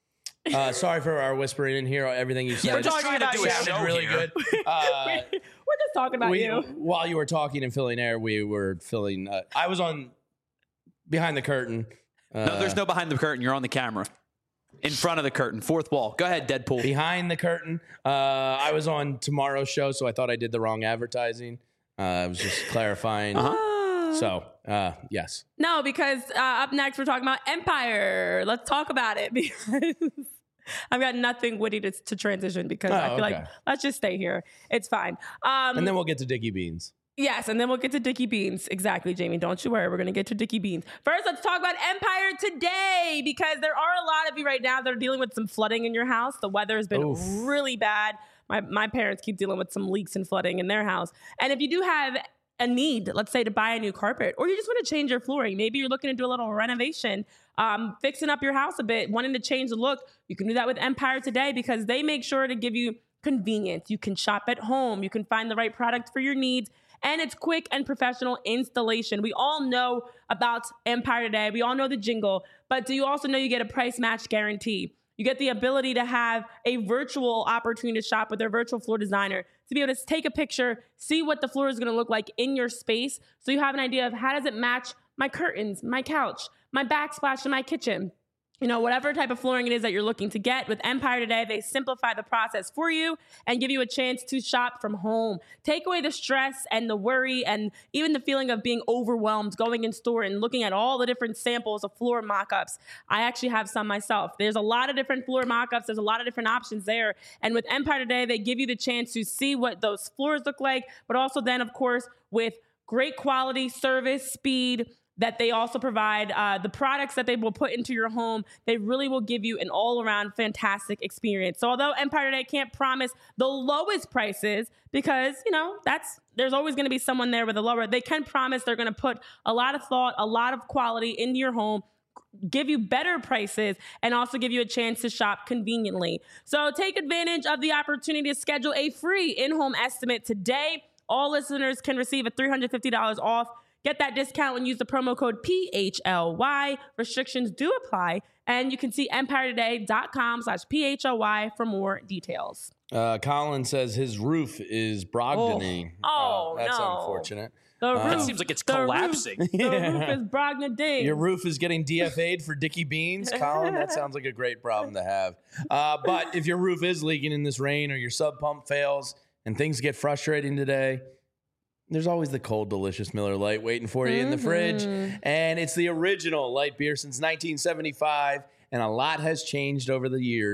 S1: Uh, sorry for our whispering in here. Everything you said
S2: We're talking
S3: trying to
S2: about
S3: do
S2: you.
S3: a
S1: sounded
S3: show
S1: really
S3: here.
S1: good. Uh,
S2: We're just talking about
S1: we,
S2: you.
S1: While you were talking and filling air, we were filling. Uh, I was on behind the curtain. Uh,
S3: No, there's no behind the curtain. You're on the camera. In front of the curtain. Fourth wall. Go ahead, Deadpool.
S1: behind the curtain. Uh, I was on tomorrow's show, so I thought I did the wrong advertising. Uh, I was just clarifying.
S3: Uh-huh.
S1: So, uh, yes.
S2: No, because uh, up next we're talking about Empire. Let's talk about it because I've got nothing witty to, to transition because
S1: Oh,
S2: I feel
S1: okay.
S2: like let's just stay here. It's fine. Um,
S1: And then we'll get to Dickie Beans.
S2: Yes, and then we'll get to Dickie Beans. Exactly, Jamie. Don't you worry. We're going to get to Dickie Beans. First, let's talk about Empire today because there are a lot of you right now that are dealing with some flooding in your house. The weather has been
S1: Oof.
S2: really bad. My, my parents keep dealing with some leaks and flooding in their house. And if you do have a need, let's say to buy a new carpet, or you just want to change your flooring, maybe you're looking to do a little renovation, um, fixing up your house a bit, wanting to change the look, you can do that with Empire today because they make sure to give you convenience. You can shop at home. You can find the right product for your needs. And it's quick and professional installation. We all know about Empire today. We all know the jingle. But do you also know you get a price match guarantee? You get the ability to have a virtual opportunity to shop with their virtual floor designer, to be able to take a picture, see what the floor is going to look like in your space. So you have an idea of how does it match my curtains, my couch, my backsplash in my kitchen. You know, whatever type of flooring it is that you're looking to get. With Empire today, they simplify the process for you and give you a chance to shop from home. Take away the stress and the worry and even the feeling of being overwhelmed going in store and looking at all the different samples of floor mock-ups. I actually have some myself. There's a lot of different floor mock-ups. There's a lot of different options there. And with Empire today, they give you the chance to see what those floors look like, but also then, of course, with great quality, service, speed, that they also provide uh, the products that they will put into your home. They really will give you an all-around fantastic experience. So although Empire today can't promise the lowest prices because, you know, that's there's always going to be someone there with a lower, they can promise they're going to put a lot of thought, a lot of quality into your home, give you better prices, and also give you a chance to shop conveniently. So take advantage of the opportunity to schedule a free in-home estimate today. All listeners can receive a three hundred fifty dollars off. Get that discount and use the promo code P H L Y. Restrictions do apply. And you can see empiretoday.com slash P H L Y for more details.
S1: Uh, Colin says his roof is Brogdony.
S2: Oh,
S1: Uh, that's
S2: no.
S1: unfortunate.
S2: The
S1: Uh,
S2: roof,
S3: It seems like it's
S2: the
S3: collapsing.
S2: Roof, the roof is Brogdony.
S1: Your roof is getting D F A'd for Dickie Beans, Colin. That sounds like a great problem to have. Uh, but if your roof is leaking in this rain or your sub pump fails and things get frustrating today, there's always the cold, delicious Miller Lite waiting for you mm-hmm. in the fridge. And it's the original light beer since nineteen seventy-five. And a lot has changed over the years.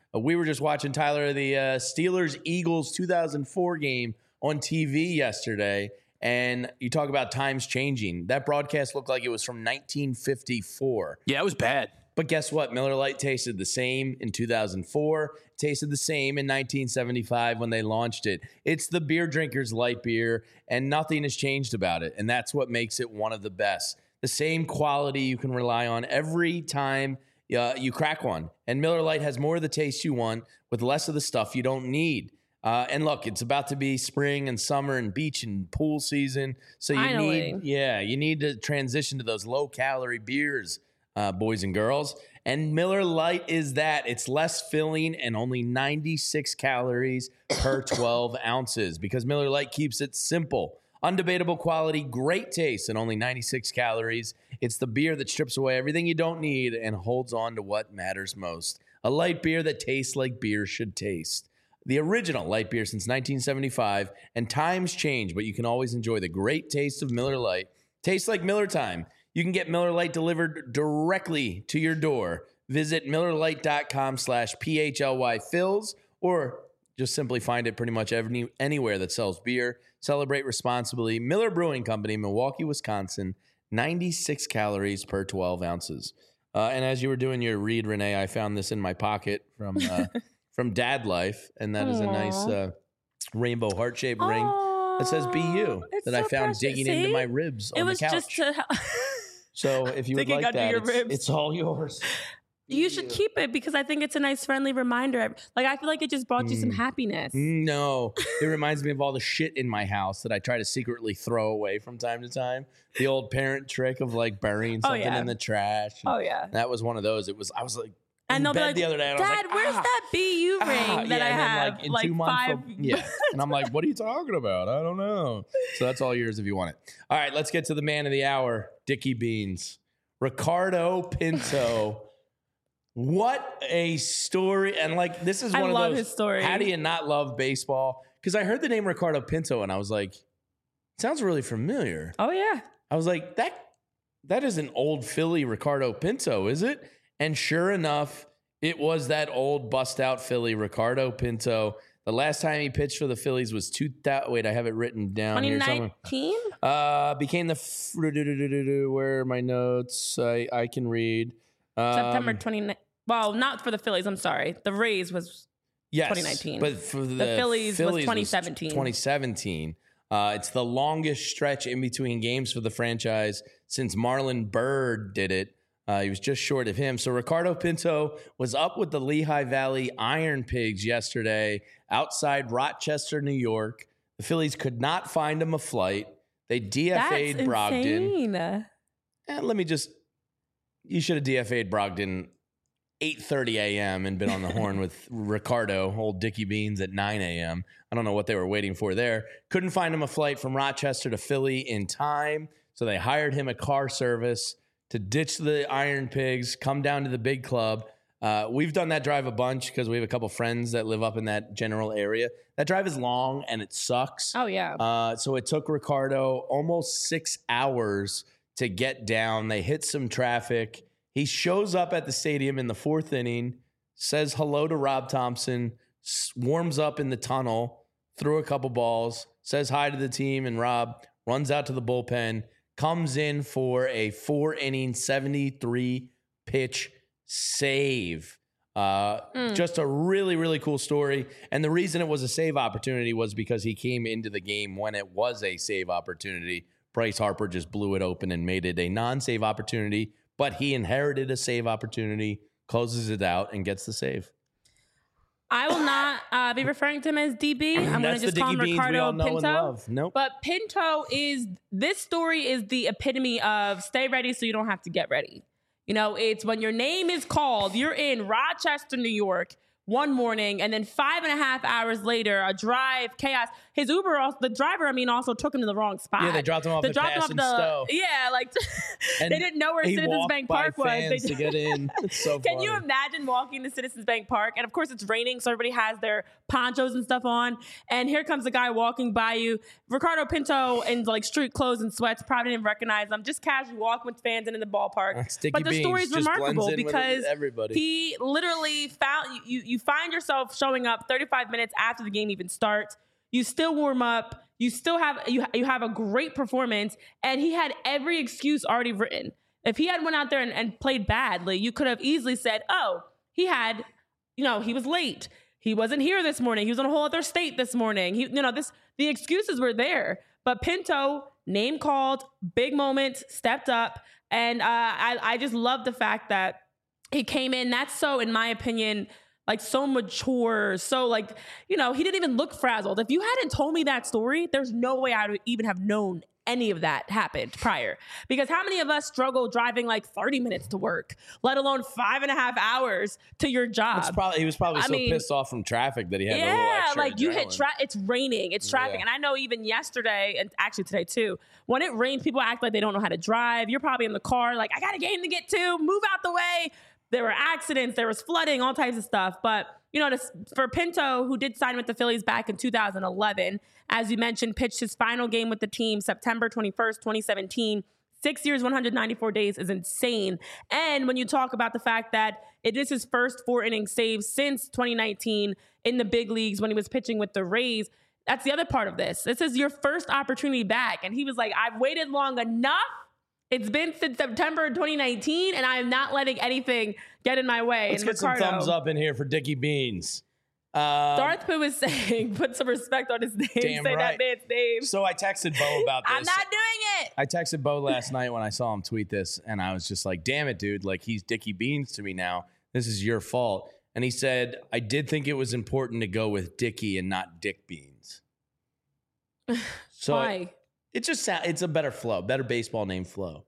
S1: Uh, we were just watching, Tyler, the uh, Steelers-Eagles two thousand four game on T V yesterday, and you talk about times changing. That broadcast looked like it was from nineteen fifty-four.
S3: Yeah, it was bad.
S1: But guess what? Miller Lite tasted the same in two thousand four, tasted the same in nineteen seventy-five when they launched it. It's the beer drinkers' light beer, and nothing has changed about it. And that's what makes it one of the best. The same quality you can rely on every time uh, you crack one. And Miller Lite has more of the taste you want with less of the stuff you don't need. Uh, and look, it's about to be spring and summer and beach and pool season. So you
S2: Finally.
S1: need, yeah, you need to transition to those low-calorie beers, uh, boys and girls. And Miller Lite is that. It's less filling and only ninety-six calories per twelve ounces because Miller Lite keeps it simple. Undebatable quality, great taste, and only ninety-six calories. It's the beer that strips away everything you don't need and holds on to what matters most. A light beer that tastes like beer should taste. The original light beer since nineteen seventy-five, and times change, but you can always enjoy the great taste of Miller Lite. Tastes like Miller time. You can get Miller Lite delivered directly to your door. Visit MillerLite.com slash PHLY or just simply find it pretty much any, anywhere that sells beer. Celebrate responsibly. Miller Brewing Company, Milwaukee, Wisconsin, ninety-six calories per twelve ounces. Uh, and as you were doing your read, Renee, I found this in my pocket from uh, from Dad Life, and that is a nice uh, rainbow heart-shaped ring that says "Be You"
S2: It's
S1: that
S2: so
S1: I found
S2: precious.
S1: digging
S2: See?
S1: into my ribs
S2: It
S1: on
S2: was
S1: the couch.
S2: just to help.
S1: So if you would
S2: Digging
S1: like
S2: under
S1: that,
S2: your
S1: it's,
S2: ribs.
S1: it's all yours.
S2: You should keep it because I think it's a nice friendly reminder. Like, I feel like it just brought you some happiness.
S1: No, it reminds me of all the shit in my house that I try to secretly throw away from time to time. The old parent trick of like burying
S2: Oh,
S1: something
S2: yeah.
S1: in the trash.
S2: Oh, yeah.
S1: That was one of those. It was, I was like,
S2: And
S1: in
S2: they'll be
S1: bed
S2: like,
S1: the other day, and I was
S2: Dad,
S1: like,
S2: where's
S1: ah,
S2: that B U ring
S1: ah.
S2: that
S1: yeah,
S2: I
S1: and then,
S2: have?
S1: like, in
S2: like
S1: two months,
S2: five.
S1: they'll- yeah. And I'm like, what are you talking about? I don't know. So that's all yours if you want it. All right, let's get to the man of the hour, Dickie Beans. Ricardo Pinto. What a story. And like, this is
S2: I
S1: one of
S2: love
S1: those.
S2: his story.
S1: How do you not love baseball? Because I heard the name Ricardo Pinto and I was like, sounds really familiar.
S2: Oh, yeah.
S1: I was like, that that is an old Philly Ricardo Pinto, is it? And sure enough, it was that old bust out Philly Ricardo Pinto. The last time he pitched for the Phillies was two thousand. Wait, I have it written down here somewhere.
S2: twenty nineteen?
S1: Uh, became the f- where are my notes? I I can read. Um,
S2: September twenty-ninth. Well, not for the Phillies. I'm sorry. The Rays was
S1: yes,
S2: twenty nineteen.
S1: but for the,
S2: The Phillies was twenty seventeen.
S1: twenty seventeen. Uh, it's the longest stretch in between games for the franchise since Marlon Byrd did it. Uh, he was just short of him. So Ricardo Pinto was up with the Lehigh Valley Iron Pigs yesterday outside Rochester, New York. The Phillies could not find him a flight. They D F A'd
S2: That's
S1: Brogdon.
S2: insane.
S1: And let me just, you should have D F A'd Brogdon eight thirty a.m. and been on the horn with Ricardo, old Dickie Beans, at nine a.m. I don't know what they were waiting for there. Couldn't find him a flight from Rochester to Philly in time, so they hired him a car service to ditch the Iron Pigs, come down to the big club. Uh, we've done that drive a bunch because we have a couple friends that live up in that general area. That drive is long and it sucks.
S2: Oh, yeah.
S1: Uh, so it took Ricardo almost six hours to get down. They hit some traffic. He shows up at the stadium in the fourth inning, says hello to Rob Thompson, s- warms up in the tunnel, threw a couple balls, says hi to the team, and Rob runs out to the bullpen, comes in for a four-inning, seventy-three pitch save. Uh,
S2: Mm.
S1: Just a really, really cool story. And the reason it was a save opportunity was because he came into the game when it was a save opportunity. Bryce Harper just blew it open and made it a non-save opportunity, but he inherited a save opportunity, closes it out, and gets the save.
S2: I will not uh, be referring to him as D B. I'm going to
S1: That's
S2: just
S1: the
S2: call
S1: Dickie
S2: him
S1: Beans we
S2: Ricardo
S1: all know and
S2: Pinto.
S1: love. Nope.
S2: But Pinto is, this story is the epitome of stay ready so you don't have to get ready. You know, it's when your name is called, you're in Rochester, New York, one morning, and then five and a half hours later, a drive, chaos. His Uber, also, the driver, I mean, also took him to the wrong spot.
S1: Yeah, they dropped him off
S2: They
S1: at
S2: dropped him
S1: Pass
S2: off
S1: and
S2: the,
S1: Stowe.
S2: Yeah, like
S1: And
S2: they didn't know where
S1: he
S2: Citizens
S1: walked
S2: Bank
S1: by
S2: Park was.
S1: fans
S2: They
S1: to get in. It's so
S2: Can
S1: funny.
S2: you imagine walking to Citizens Bank Park? And of course, it's raining, so everybody has their ponchos and stuff on. And here comes a guy walking by you, Ricardo Pinto, in like street clothes and sweats. Probably didn't recognize him. Just casually walking with fans into the ballpark.
S1: That's Dickie
S2: But the
S1: Beans.
S2: story is
S1: Just blends
S2: remarkable
S1: in with
S2: because
S1: everybody.
S2: he literally found you. You find yourself showing up thirty-five minutes after the game even starts. You still warm up. You still have you you have a great performance, and he had every excuse already written. If he had went out there and, and played badly, you could have easily said, "Oh, he had, you know, he was late. He wasn't here this morning. He was in a whole other state this morning. He, you know, this the excuses were there." But Pinto, name called, big moment, stepped up, and uh, I I just love the fact that he came in. That's so, in my opinion, like so mature, so like, you know, he didn't even look frazzled. If you hadn't told me that story, there's no way I would even have known any of that happened prior. Because how many of us struggle driving like thirty minutes to work, let alone five and a half hours to your job?
S1: It's probably, he was probably
S2: I
S1: so
S2: mean,
S1: pit off from traffic that he had a little
S2: yeah,
S1: extra
S2: like you hit
S1: adrenaline.
S2: tra- it's raining, it's traffic.
S1: Yeah.
S2: And I know even yesterday, and actually today too, when it rains, people act like they don't know how to drive. You're probably in the car like, I got a game to get to, move out the way. There were accidents, there was flooding, all types of stuff. But, you know, to, for Pinto, who did sign with the Phillies back in two thousand eleven, as you mentioned, pitched his final game with the team September twenty-first, twenty seventeen. Six years, one hundred ninety-four days is insane. And when you talk about the fact that it is his first four inning save since twenty nineteen in the big leagues when he was pitching with the Rays, that's the other part of this. This is your first opportunity back. And he was like, I've waited long enough. It's been since September twenty nineteen, and I am not letting anything get in my way.
S1: Let's
S2: and
S1: get
S2: Ricardo,
S1: some thumbs up in here for Dickie Beans. Um,
S2: Darth Pooh is saying, put some respect on his name.
S1: Damn
S2: Say
S1: right.
S2: that man's name.
S1: So I texted Bo about this.
S2: I'm not doing it.
S1: I texted Bo last night when I saw him tweet this, and I was just like, damn it, dude. Like, he's Dickie Beans to me now. This is your fault. And he said, I did think it was important to go with Dickie and not Dick Beans. So
S2: Why?
S1: It, it just sounds, it's a better flow, better baseball name flow.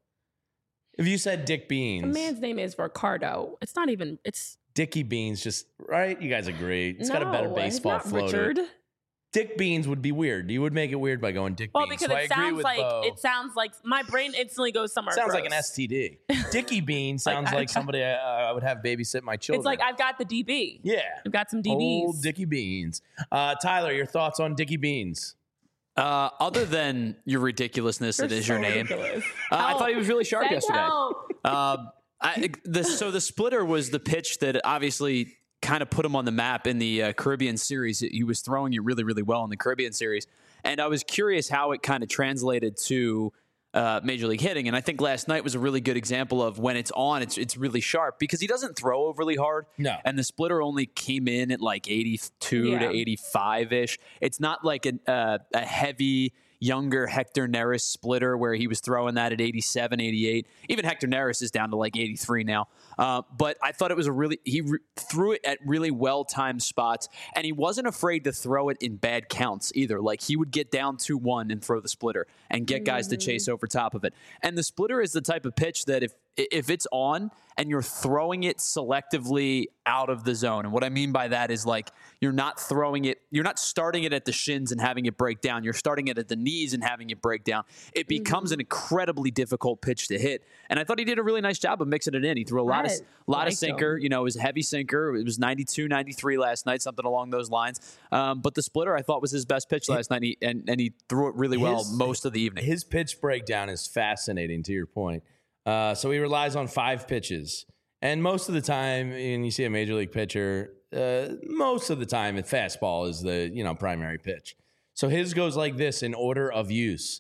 S1: If you said Dick Beans,
S2: The man's name is Ricardo. It's not even, it's.
S1: Dickie Beans, just, right? You guys agree. It's got a better
S2: No,
S1: baseball
S2: it's not
S1: flow. to it.
S2: Richard.
S1: Dick Beans would be weird. You would make it weird by going Dick
S2: Well,
S1: Beans.
S2: because
S1: So I
S2: it
S1: agree
S2: sounds
S1: with
S2: like
S1: Bo.
S2: it sounds like my brain instantly goes somewhere.
S1: Sounds like
S2: gross.
S1: an S T D. Dickie Bean
S2: Like,
S1: sounds
S2: I-
S1: like somebody I, I would have babysit my children.
S2: It's like I've got the D B.
S1: yeah,
S2: I've got some D Bs.
S1: old Dickie Beans. Uh, Tyler, your thoughts on Dickie Beans?
S3: Uh, other than your ridiculousness,
S2: You're
S3: it is
S2: so
S3: your name.
S2: ridiculous.
S3: Uh, I
S2: Help.
S3: thought he was really sharp
S2: Send
S3: yesterday.
S2: help.
S3: Um, I, the, so the splitter was the pitch that obviously kind of put him on the map in the uh, Caribbean series. He was throwing it really, really well in the Caribbean series. And I was curious how it kind of translated to uh, Major League hitting. And I think last night was a really good example of when it's on, it's it's really sharp because he doesn't throw overly hard.
S1: No.
S3: And the splitter only came in at like eighty-two
S2: Yeah.
S3: to eighty-five-ish. It's not like a, uh, a heavy, younger Hector Neris splitter where he was throwing that at eighty-seven, eighty-eight. Even Hector Neris is down to like eighty-three now. Uh, but I thought it was a really, he re- threw it at really well-timed spots, and he wasn't afraid to throw it in bad counts either. Like he would get down two one and throw the splitter and get guys to chase over top of it. And the splitter is the type of pitch that if if it's on and you're throwing it selectively out of the zone, and what I mean by that is like you're not throwing it, you're not starting it at the shins and having it break down. You're starting it at the knees and having it break down. It becomes an incredibly difficult pitch to hit. And I thought he did a really nice job of mixing it in. He threw a lot of
S2: I
S3: lot of
S2: liked
S3: sinker.
S2: him.
S3: You know, it was a heavy sinker. It was ninety-two, ninety-three last night, something along those lines. Um, but the splitter I thought was his best pitch last night, and he, and, and he threw it really well
S1: His-
S3: most of the evening.
S1: His pitch breakdown is fascinating, to your point. Uh, so he relies on five pitches. And most of the time, when you see a major league pitcher, uh, most of the time, a fastball is the you know primary pitch. So his goes like this in order of use.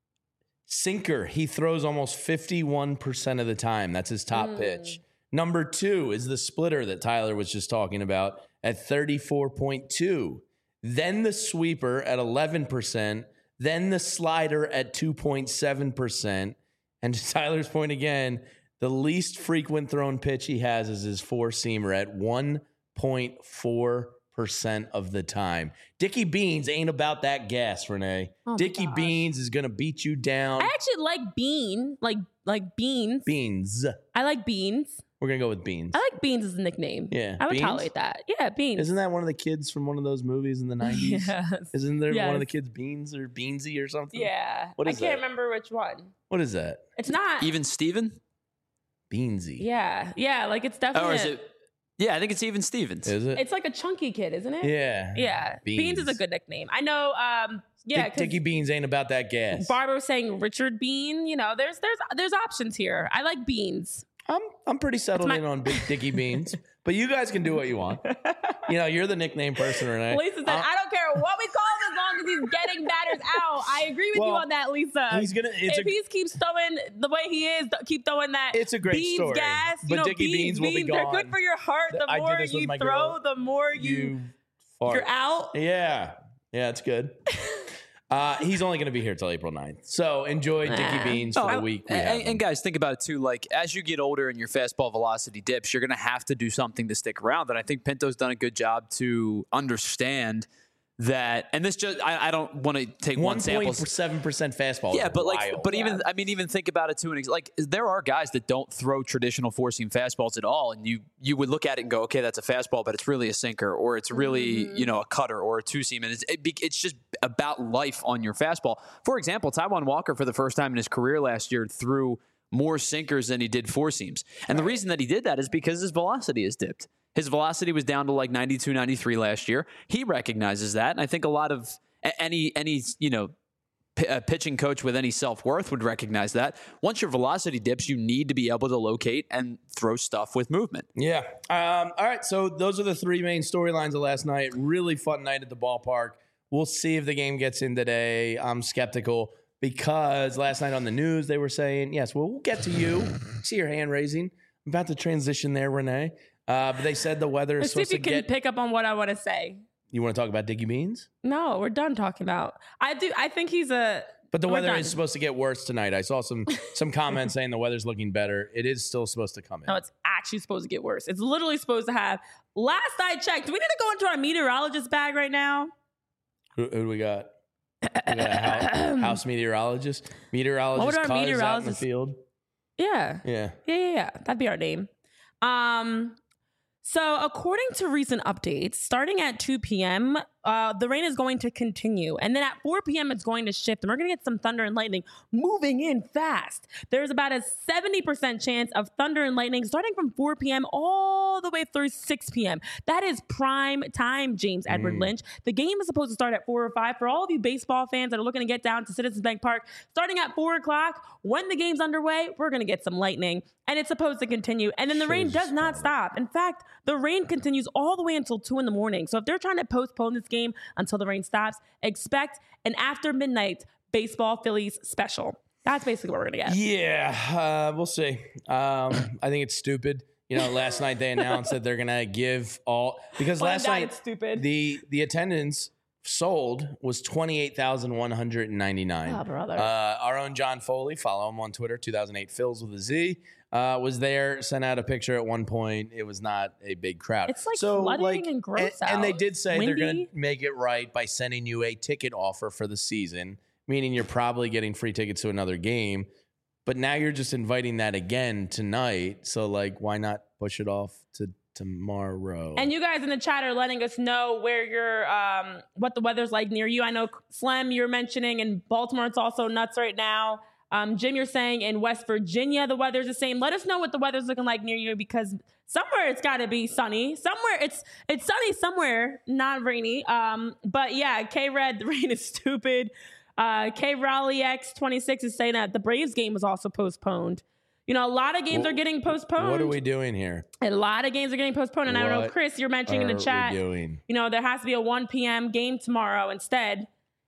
S1: Sinker, he throws almost fifty-one percent of the time. That's his top pitch. Number two is the splitter that Tyler was just talking about at thirty-four point two. Then the sweeper at eleven percent. Then the slider at two point seven percent. And to Tyler's point again, the least frequent thrown pitch he has is his four-seamer at one point four percent of the time. Dickie Beans ain't about that gas, Renee.
S2: Oh my
S1: Dickie
S2: gosh.
S1: Beans is going to beat you down.
S2: I actually like Bean, like like beans.
S1: Beans.
S2: I like beans.
S1: We're going to go with Beans.
S2: I like beans as a nickname.
S1: Yeah,
S2: I would
S1: Beans?
S2: tolerate that. Yeah, beans.
S1: Isn't that one of the kids from one of those movies in the nineties?
S2: Yes.
S1: Isn't there one of the
S2: Yes.
S1: kids Beans or Beansy or something?
S2: Yeah.
S1: What
S2: I
S1: is
S2: can't
S1: that?
S2: remember which one.
S1: What is that?
S2: It's not.
S3: Even Steven?
S1: Beansy.
S2: Yeah. Yeah. Like it's definitely.
S3: Or is it? Yeah, I think it's Even Stevens.
S1: Is it?
S2: It's like a chunky kid, isn't it?
S1: yeah.
S2: Yeah. Beans. is a
S1: Beans.
S2: good nickname. I know. Um. Yeah.
S1: Dick-
S2: 'cause
S1: Dickie Beans ain't about that gas.
S2: Barbara was saying Richard Bean. You know, there's there's there's options here. I like beans.
S1: I'm I'm pretty settled
S2: my-
S1: in on Big Dickie Beans, but you guys can do what you want. You know, you're the nickname person, Renee.
S2: Lisa said,
S1: Uh,
S2: I don't care what we call him as long as he's getting batters out. I agree with
S1: Well,
S2: you on that, Lisa.
S1: he's gonna- it's
S2: if
S1: a-
S2: he keeps throwing the way he is, th- keep throwing that.
S1: It's a great
S2: beans
S1: story,
S2: gas.
S1: but
S2: You know,
S1: Dickie Beans will be
S2: They're
S1: gone.
S2: good for your heart. The
S1: I did
S2: more
S1: this with
S2: you
S1: my
S2: throw,
S1: girl.
S2: the more you,
S1: You fart.
S2: you're out.
S1: Yeah. Yeah, it's good. Uh, he's only going to be here till April ninth. So enjoy Dickie
S2: Nah.
S1: Beans for
S3: Oh,
S1: the week we have
S3: and,
S1: him.
S3: and guys, think about it too. Like as you get older and your fastball velocity dips, you're going to have to do something to stick around. And I think Pinto's done a good job to understand that. And this just, I, I don't want to take one
S1: one
S3: sample.
S1: point seven percent fastball.
S3: Yeah,
S1: is
S3: but like,
S1: wild.
S3: but even I mean, even think about it too. And like, there are guys that don't throw traditional four seam fastballs at all, and you you would look at it and go, okay, that's a fastball, but it's really a sinker, or it's really
S2: Mm-hmm.
S3: you know a cutter or a two seam, and it's it, be- it's just about life on your fastball. For example, Taijuan Walker for the first time in his career last year threw more sinkers than he did four seams, and the reason that he did that is because his velocity is dipped. His velocity was down to like ninety-two, ninety-three last year. He recognizes that, and I think a lot of a- any any you know p- a pitching coach with any self-worth would recognize that. Once your velocity dips, you need to be able to locate and throw stuff with movement.
S1: Yeah. Um, all right. So those are the three main storylines of last night. Really fun night at the ballpark. We'll see if the game gets in today. I'm skeptical because last night on the news they were saying, yes, well, we'll get to you. See your hand raising. I'm about to transition there, Renee. Uh, but they said the weather is
S2: Let's see if
S1: supposed
S2: you
S1: to
S2: can
S1: get.
S2: pick up on what I want to say.
S1: You want to talk about Dickie Beans?
S2: No, we're done talking about. I do. I think he's a.
S1: But the
S2: We're
S1: weather
S2: done.
S1: is supposed to get worse tonight. I saw some some comments saying the weather's looking better. It is still supposed to come in.
S2: No, it's actually supposed to get worse. It's literally supposed to have. Last I checked, do we need to go into our meteorologist bag right now?
S1: Who, who do we got? We got a house, house meteorologist. Meteorologist
S2: What would our
S1: Cuz out in the
S2: meteorologist-
S1: field.
S2: Yeah.
S1: Yeah.
S2: Yeah, yeah, yeah. That'd be our name. Um, so according to recent updates, starting at two p.m., uh, the rain is going to continue. And then at four p.m., it's going to shift. And we're going to get some thunder and lightning moving in fast. There's about a seventy percent chance of thunder and lightning starting from four p.m. all the way through six p.m. That is prime time, James Edward Lynch. The game is supposed to start at four or five. For all of you baseball fans that are looking to get down to Citizens Bank Park, starting at four o'clock, when the game's underway, we're going to get some lightning. And it's supposed to continue. And then the rain does not stop. In fact, the rain continues all the way until two in the morning. So if they're trying to postpone this game until the rain stops, expect an after midnight baseball Phillies special. That's basically what we're going to get.
S1: Yeah, uh, we'll see. Um, I think it's stupid. You know, last night they announced that they're gonna give all because
S2: Find
S1: last
S2: out
S1: night
S2: it's stupid.
S1: the the attendance sold was twenty-eight thousand one hundred ninety-nine.
S2: Oh, brother.
S1: Uh, our own John Foley, follow him on Twitter, two thousand eight Phils with a Z, uh, was there, sent out a picture at one point. It was not a big crowd.
S2: It's like flooding and gross
S1: and, and they
S2: out.
S1: did say they're going
S2: Windy.
S1: to make it right by sending you a ticket offer for the season, meaning you're probably getting free tickets to another game. But now you're just inviting that again tonight. So, like, why not push it off to tomorrow?
S2: And you guys in the chat are letting us know where you're, um, what the weather's like near you. I know Slim, you're mentioning in Baltimore, it's also nuts right now. Um, Jim, you're saying in West Virginia, the weather's the same. Let us know what the weather's looking like near you because somewhere it's got to be sunny. Somewhere it's it's sunny somewhere, not rainy. Um, but yeah, K-Red, the rain is stupid. Uh, K Raleigh X twenty-six is saying that the Braves game was also postponed. You know, a lot of games
S1: Well,
S2: are getting postponed.
S1: What are we doing here?
S2: A lot of games are getting postponed. And I don't know,
S1: What
S2: Chris, you're mentioning in
S1: Are
S2: the chat,
S1: we doing?
S2: you know, there has to be a one p.m. game tomorrow instead.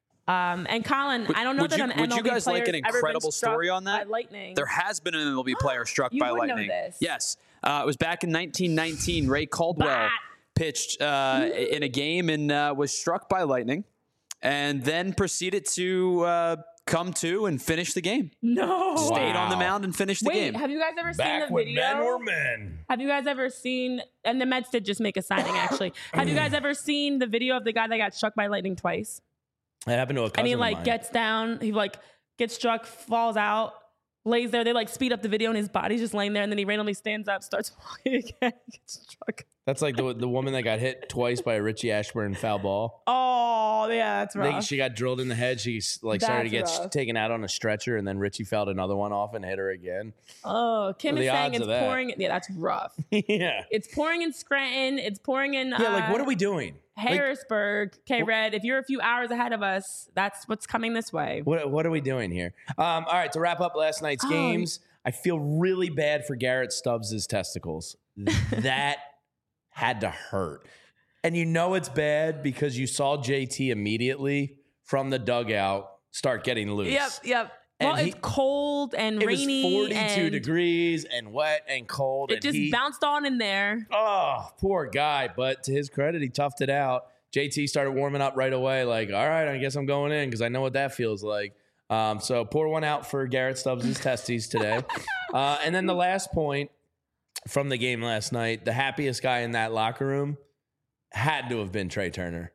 S2: Um, and Colin, I don't know
S3: would
S2: that
S3: you-
S2: an
S3: would
S2: M L B
S3: you guys like
S2: player's
S3: an
S2: ever been
S3: incredible
S2: struck
S3: story on that?
S2: by lightning.
S3: There has been an M L B player struck
S2: You
S3: by
S2: would know
S3: lightning.
S2: this.
S3: Yes. Uh, it was back in nineteen nineteen. Ray Caldwell
S2: Bat.
S3: pitched uh, in a game and uh, was struck by lightning and then proceeded to uh, come to and finish the game.
S2: No.
S3: Stayed on the
S1: Wow.
S3: mound and finished the
S2: Wait,
S3: game.
S2: have you guys ever
S1: Back
S2: seen the
S1: when
S2: video?
S1: men were men.
S2: Have you guys ever seen, and the Mets did just make a signing actually. Have you guys ever seen the video of the guy that got struck by lightning twice?
S1: That happened to a cousin
S2: And he
S1: of
S2: like
S1: mine.
S2: gets down, he like gets struck, falls out, lays there. They like speed up the video and his body's just laying there. And then he randomly stands up, starts walking again, gets struck.
S1: That's like the the woman that got hit twice by a Richie Ashburn foul ball.
S2: Oh, yeah, that's
S1: I think
S2: rough.
S1: she got drilled in the head. She like started to get
S2: That's rough.
S1: taken out on a stretcher, and then Richie fouled another one off and hit her again.
S2: Oh, Kim
S1: Well,
S2: is
S1: the
S2: saying
S1: odds
S2: it's
S1: of that.
S2: pouring. Yeah, that's rough.
S1: yeah,
S2: It's pouring in Scranton. It's pouring in
S1: yeah. Like,
S2: uh,
S1: what are we doing? Like,
S2: Harrisburg. K Red, if you're a few hours ahead of us, that's what's coming this way.
S1: what what are we doing here? Um, all right, to wrap up last night's
S2: Oh.
S1: games, I feel really bad for Garrett Stubbs' testicles. That had to hurt. And you know it's bad because you saw J T immediately from the dugout start getting loose.
S2: Yep, yep.
S1: And
S2: well,
S1: he-
S2: it's cold and
S1: It
S2: rainy.
S1: was forty-two
S2: and
S1: degrees and wet and cold.
S2: It
S1: and
S2: just
S1: he,
S2: bounced on in there.
S1: Oh, poor guy. But to his credit, he toughed it out. J T started warming up right away. Like, all right, I guess I'm going in because I know what that feels like. Um, so pour one out for Garrett Stubbs' testes today. Uh, and then the last point from the game last night, the happiest guy in that locker room had to have been Trey Turner.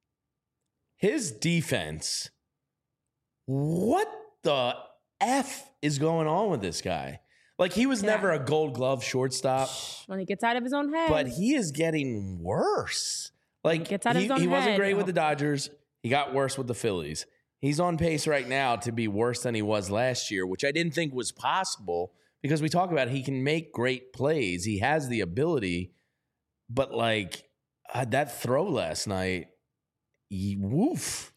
S1: His defense, what the F is going on with this guy? Like, he was
S2: Yeah.
S1: never a gold glove shortstop,
S2: When he gets out of his own head.
S1: but he is getting worse. Like,
S2: Gets out of
S1: he,
S2: his own
S1: he wasn't
S2: head.
S1: great with the Dodgers. He got worse with the Phillies. He's on pace right now to be worse than he was last year, which I didn't think was possible because we talk about he can make great plays. He has the ability, but like uh, that throw last night, he, woof.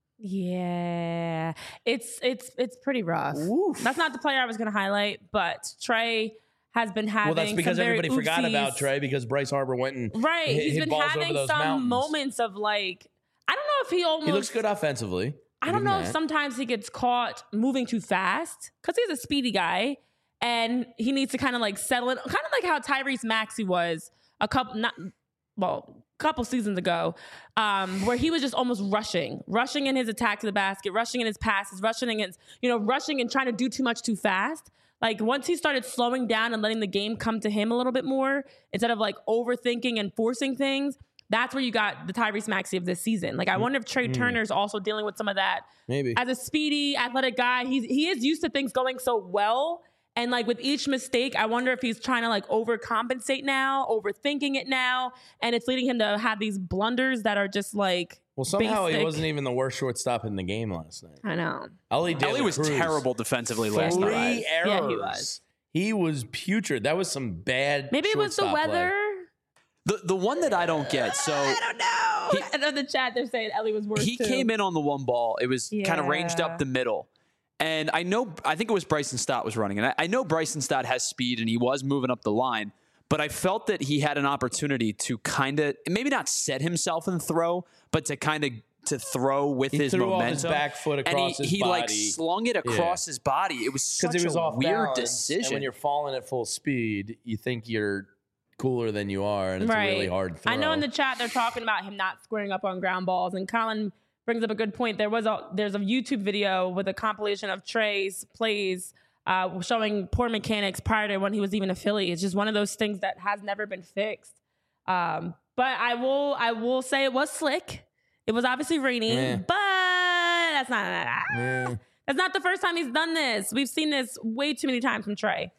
S2: Yeah, it's it's it's pretty rough.
S1: Woof.
S2: That's not the player I was going to highlight, but Trey has been having.
S1: Well, that's because
S2: some very
S1: everybody forgot
S2: oopsies.
S1: about Trey because Bryce Harper went and
S2: Right,
S1: hit,
S2: he's
S1: hit
S2: been
S1: balls
S2: having
S1: over those
S2: some
S1: mountains.
S2: moments of like, I don't know if he almost.
S1: He looks good offensively.
S2: I
S1: Give
S2: don't
S1: him
S2: know if
S1: that.
S2: sometimes he gets caught moving too fast because he's a speedy guy and he needs to kind of like settle in, kind of like how Tyrese Maxey was a couple, not well, a couple seasons ago, um, where he was just almost rushing, rushing in his attack to the basket, rushing in his passes, rushing against, you know, rushing and trying to do too much too fast. Like once he started slowing down and letting the game come to him a little bit more, instead of like overthinking and forcing things, that's where you got the Tyrese Maxey of this season. Like, I wonder if Trey Turner's also dealing with some of that.
S1: Maybe.
S2: As a speedy, athletic guy, he's, he is used to things going so well. And, like, with each mistake, I wonder if he's trying to, like, overcompensate now, overthinking it now. And it's leading him to have these blunders that are just, like,
S1: Well, somehow
S2: basic.
S1: he wasn't even the worst shortstop in the game last night.
S2: I know.
S1: Ellie,
S3: Ellie was terrible defensively last
S1: Three
S3: night.
S1: errors.
S2: Yeah, he was.
S1: He was putrid. That was some bad.
S2: Maybe it was the
S1: shortstop
S2: weather.
S1: play.
S3: The the one that I don't get, so
S2: I don't know. I know in the chat they're saying Ellie was worse
S3: he
S2: too.
S3: came in on the one ball. It was kind of ranged
S2: Yeah.
S3: up the middle. And I know, I think it was Bryson Stott was running. And I, I know Bryson Stott has speed and he was moving up the line. But I felt that he had an opportunity to kind of, maybe not set himself and throw, but to kind of to throw with
S1: He
S3: his
S1: threw
S3: momentum.
S1: off his back foot
S3: and
S1: across
S3: he,
S1: his
S3: he like
S1: body.
S3: slung it across his body. It was such
S1: Because it was
S3: a
S1: off
S3: weird
S1: balance,
S3: decision.
S1: And when you're falling at full speed, you think you're cooler than you are, and it's
S2: right.
S1: a really hard throw.
S2: I know in the chat they're talking about him not squaring up on ground balls, and Colin brings up a good point. There was a there's a YouTube video with a compilation of Trey's plays uh, showing poor mechanics prior to when he was even a Philly. It's just one of those things that has never been fixed. Um, but I will I will say it was slick. It was obviously raining,
S1: Yeah.
S2: but that's not
S1: Yeah.
S2: that's not the first time he's done this. We've seen this way too many times from Trey.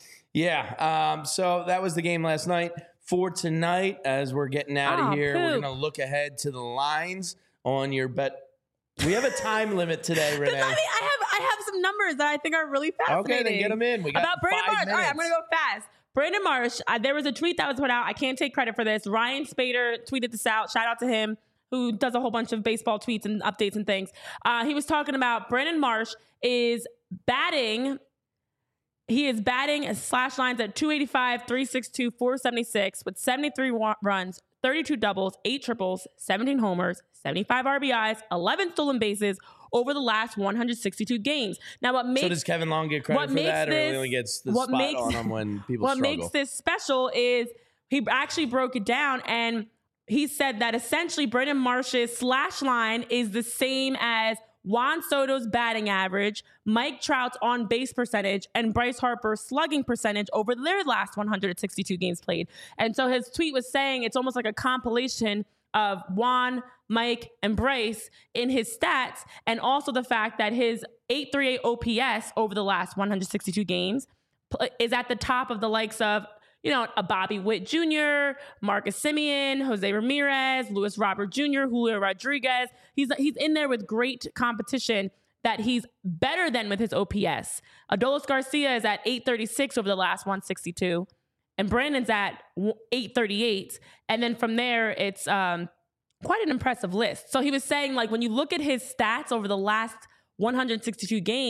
S1: Yeah. Um, so that was the game last night. For tonight, as we're getting out
S2: Oh,
S1: of here, we're
S2: poop.
S1: going to look ahead to the lines on your bet. We have a time limit today, Renee.
S2: I mean, I have I have some numbers that I think are really fascinating.
S1: Okay, then get them in. We got
S2: About Brandon
S1: five
S2: Marsh.
S1: minutes.
S2: All right, I'm going to go fast. Brandon Marsh, uh, there was a tweet that was put out. I can't take credit for this. Ryan Spader tweeted this out. Shout out to him, who does a whole bunch of baseball tweets and updates and things. Uh, he was talking about Brandon Marsh is batting. He is batting slash lines at two eighty-five, three sixty-two, four seventy-six with seventy-three wa- runs, thirty-two doubles, eight triples, seventeen homers, seventy-five R B Is, eleven stolen bases over the last one hundred sixty-two games. Now, what makes
S1: So does Kevin Long get credit
S2: what
S1: for
S2: makes
S1: that, or
S2: this-
S1: he only gets the
S2: what
S1: spot
S2: makes-
S1: on him when people
S2: what
S1: struggle?
S2: makes this special is he actually broke it down, and he said that essentially Brandon Marsh's slash line is the same as Juan Soto's batting average, Mike Trout's on base percentage, and Bryce Harper's slugging percentage over their last one hundred sixty-two games played. And so his tweet was saying it's almost like a compilation of Juan, Mike, and Bryce in his stats, and also the fact that his eight thirty-eight O P S over the last one hundred sixty-two games pl- is at the top of the likes of, you know, a Bobby Witt Junior, Marcus Semien, Jose Ramirez, Luis Robert Junior, Julio Rodriguez. He's he's in there with great competition that he's better than with his O P S. Adolis Garcia is at eight thirty-six over the last one sixty-two, and Brandon's at eight thirty-eight. And then from there, it's um, quite an impressive list. So he was saying, like, when you look at his stats over the last one hundred sixty-two games,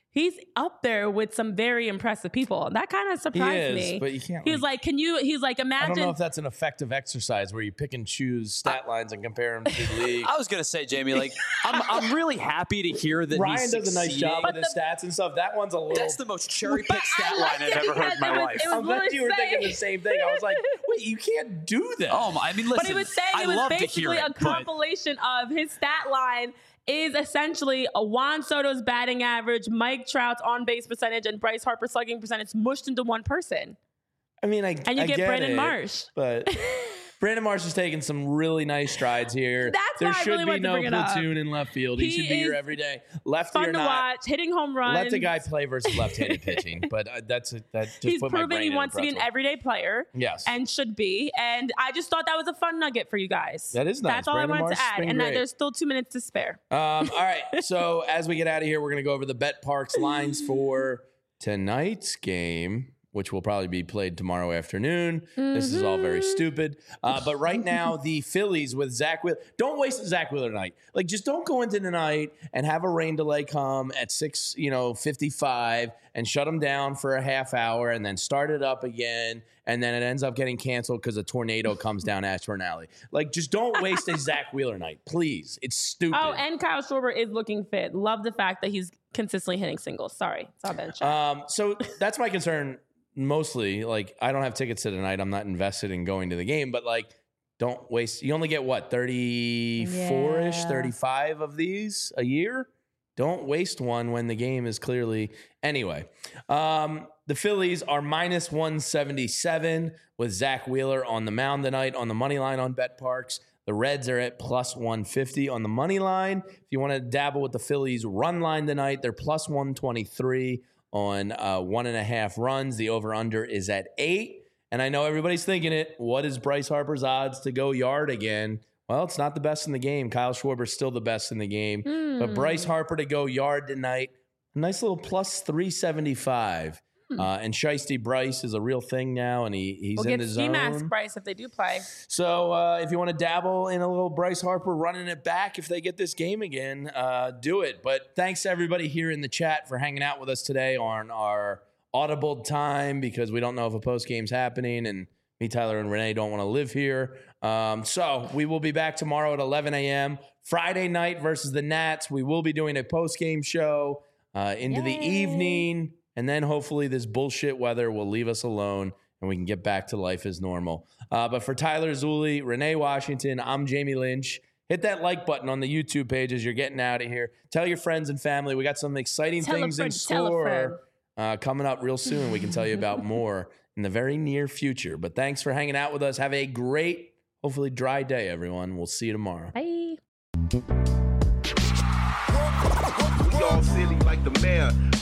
S2: he's up there with some very impressive people. That kind of surprised
S1: he is,
S2: me.
S1: But you can't.
S2: He was like, "Can you?" He's like, "Imagine."
S1: I don't know if that's an effective exercise where you pick and choose stat lines and compare them to the league.
S3: I was gonna say, Jamie, like I'm, I'm really happy to hear that
S1: Ryan
S3: he's
S1: does a nice job
S3: succeeding.
S1: with his stats and stuff. That one's a little.
S3: That's the most cherry picked stat
S2: I
S3: line
S2: liked
S3: I've
S2: it
S3: ever heard in my
S2: because it was-
S3: life.
S2: it was
S1: I'm glad
S2: really
S1: you were thinking
S2: saying-
S1: the same thing. I was like, wait, you can't do that.
S3: Oh my! I mean, listen.
S2: But he was saying
S3: I
S2: it was
S3: love to
S2: basically
S3: hear
S2: a
S3: it, but-
S2: compilation of his stat line is essentially a Juan Soto's batting average, Mike Trout's on base percentage, and Bryce Harper's slugging percentage mushed into one person.
S1: I mean, I
S2: And you
S1: I
S2: get Brandon
S1: it,
S2: Marsh.
S1: but Brandon Marsh is taking some really nice strides here.
S2: That's
S1: there
S2: why I
S1: should
S2: really
S1: be
S2: wanted to
S1: no
S2: bring it up.
S1: platoon in left field. He,
S2: He
S1: should be here
S2: is
S1: every day. Lefty
S2: Fun
S1: or
S2: to
S1: not,
S2: watch, hitting home runs.
S1: let the guy play versus left-handed pitching. But uh, that's a, that just
S2: He's
S1: put my
S2: proven
S1: brain
S2: he
S1: in a
S2: wants to be an
S1: pretzel.
S2: everyday player.
S1: Yes.
S2: And should be. And I just thought that was a fun nugget for you guys.
S1: That is nice.
S2: That's all
S1: Brandon
S2: I wanted
S1: Marsh
S2: to
S1: has
S2: add.
S1: been
S2: And that
S1: great.
S2: there's still two minutes to spare.
S1: Um, all right. So as we get out of here, we're going to go over the Bet Parks lines for tonight's game, which will probably be played tomorrow afternoon. This is all very stupid. Uh, but right now, the Phillies with Zach Wheeler. Don't waste a Zach Wheeler night. Like, just don't go into the night and have a rain delay come at six, you know, fifty-five and shut them down for a half hour and then start it up again. And then it ends up getting canceled because a tornado comes down Ashburn Alley. Like, just don't waste a Zach Wheeler night, please. It's stupid.
S2: Oh, and Kyle Schwarber is looking fit. Love the fact that he's consistently hitting singles. Sorry. Saw that in chat.
S1: Um, so that's my concern mostly. Like, I don't have tickets to tonight. I'm not invested in going to the game, but like, don't waste. You only get what, thirty-four ish,
S2: Yeah.
S1: thirty-five of these a year? Don't waste one when the game is clearly. Anyway, um, the Phillies are minus one seventy-seven with Zach Wheeler on the mound tonight on the money line on Bet Parks. The Reds are at plus one fifty on the money line. If you want to dabble with the Phillies run line tonight, they're plus one twenty-three on uh, one and a half runs. The over-under is at eight. And I know everybody's thinking it. What is Bryce Harper's odds to go yard again? Well, it's not the best in the game. Kyle Schwarber's still the best in the game.
S2: Mm.
S1: But Bryce Harper to go yard tonight, a nice little plus three seventy-five.
S2: Hmm.
S1: Uh, and Shiesty Bryce is a real thing now, and he, he's
S2: we'll
S1: in
S2: get
S1: the
S2: ski mask
S1: zone.
S2: Bryce if they do play.
S1: So uh, if you want to dabble in a little Bryce Harper running it back if they get this game again, uh, do it. But thanks to everybody here in the chat for hanging out with us today on our audible time because we don't know if a post game's happening, and me, Tyler, and Renee don't want to live here. Um, so we will be back tomorrow at eleven a.m. Friday night versus the Nats. We will be doing a post game show uh, into the
S2: Yay.
S1: evening, and then hopefully this bullshit weather will leave us alone and we can get back to life as normal. Uh, but for Tyler Zulli, Renee Washington, I'm Jamie Lynch. Hit that like button on the YouTube page as you're getting out of here. Tell your friends and family. We got some exciting
S2: Tell a
S1: things in
S2: friend, tell a friend.
S1: store uh, coming up real soon. We can tell you about more in the very near future. But thanks for hanging out with us. Have a great, hopefully dry day, everyone. We'll see you tomorrow.
S2: Bye.
S4: We all silly like the mayor.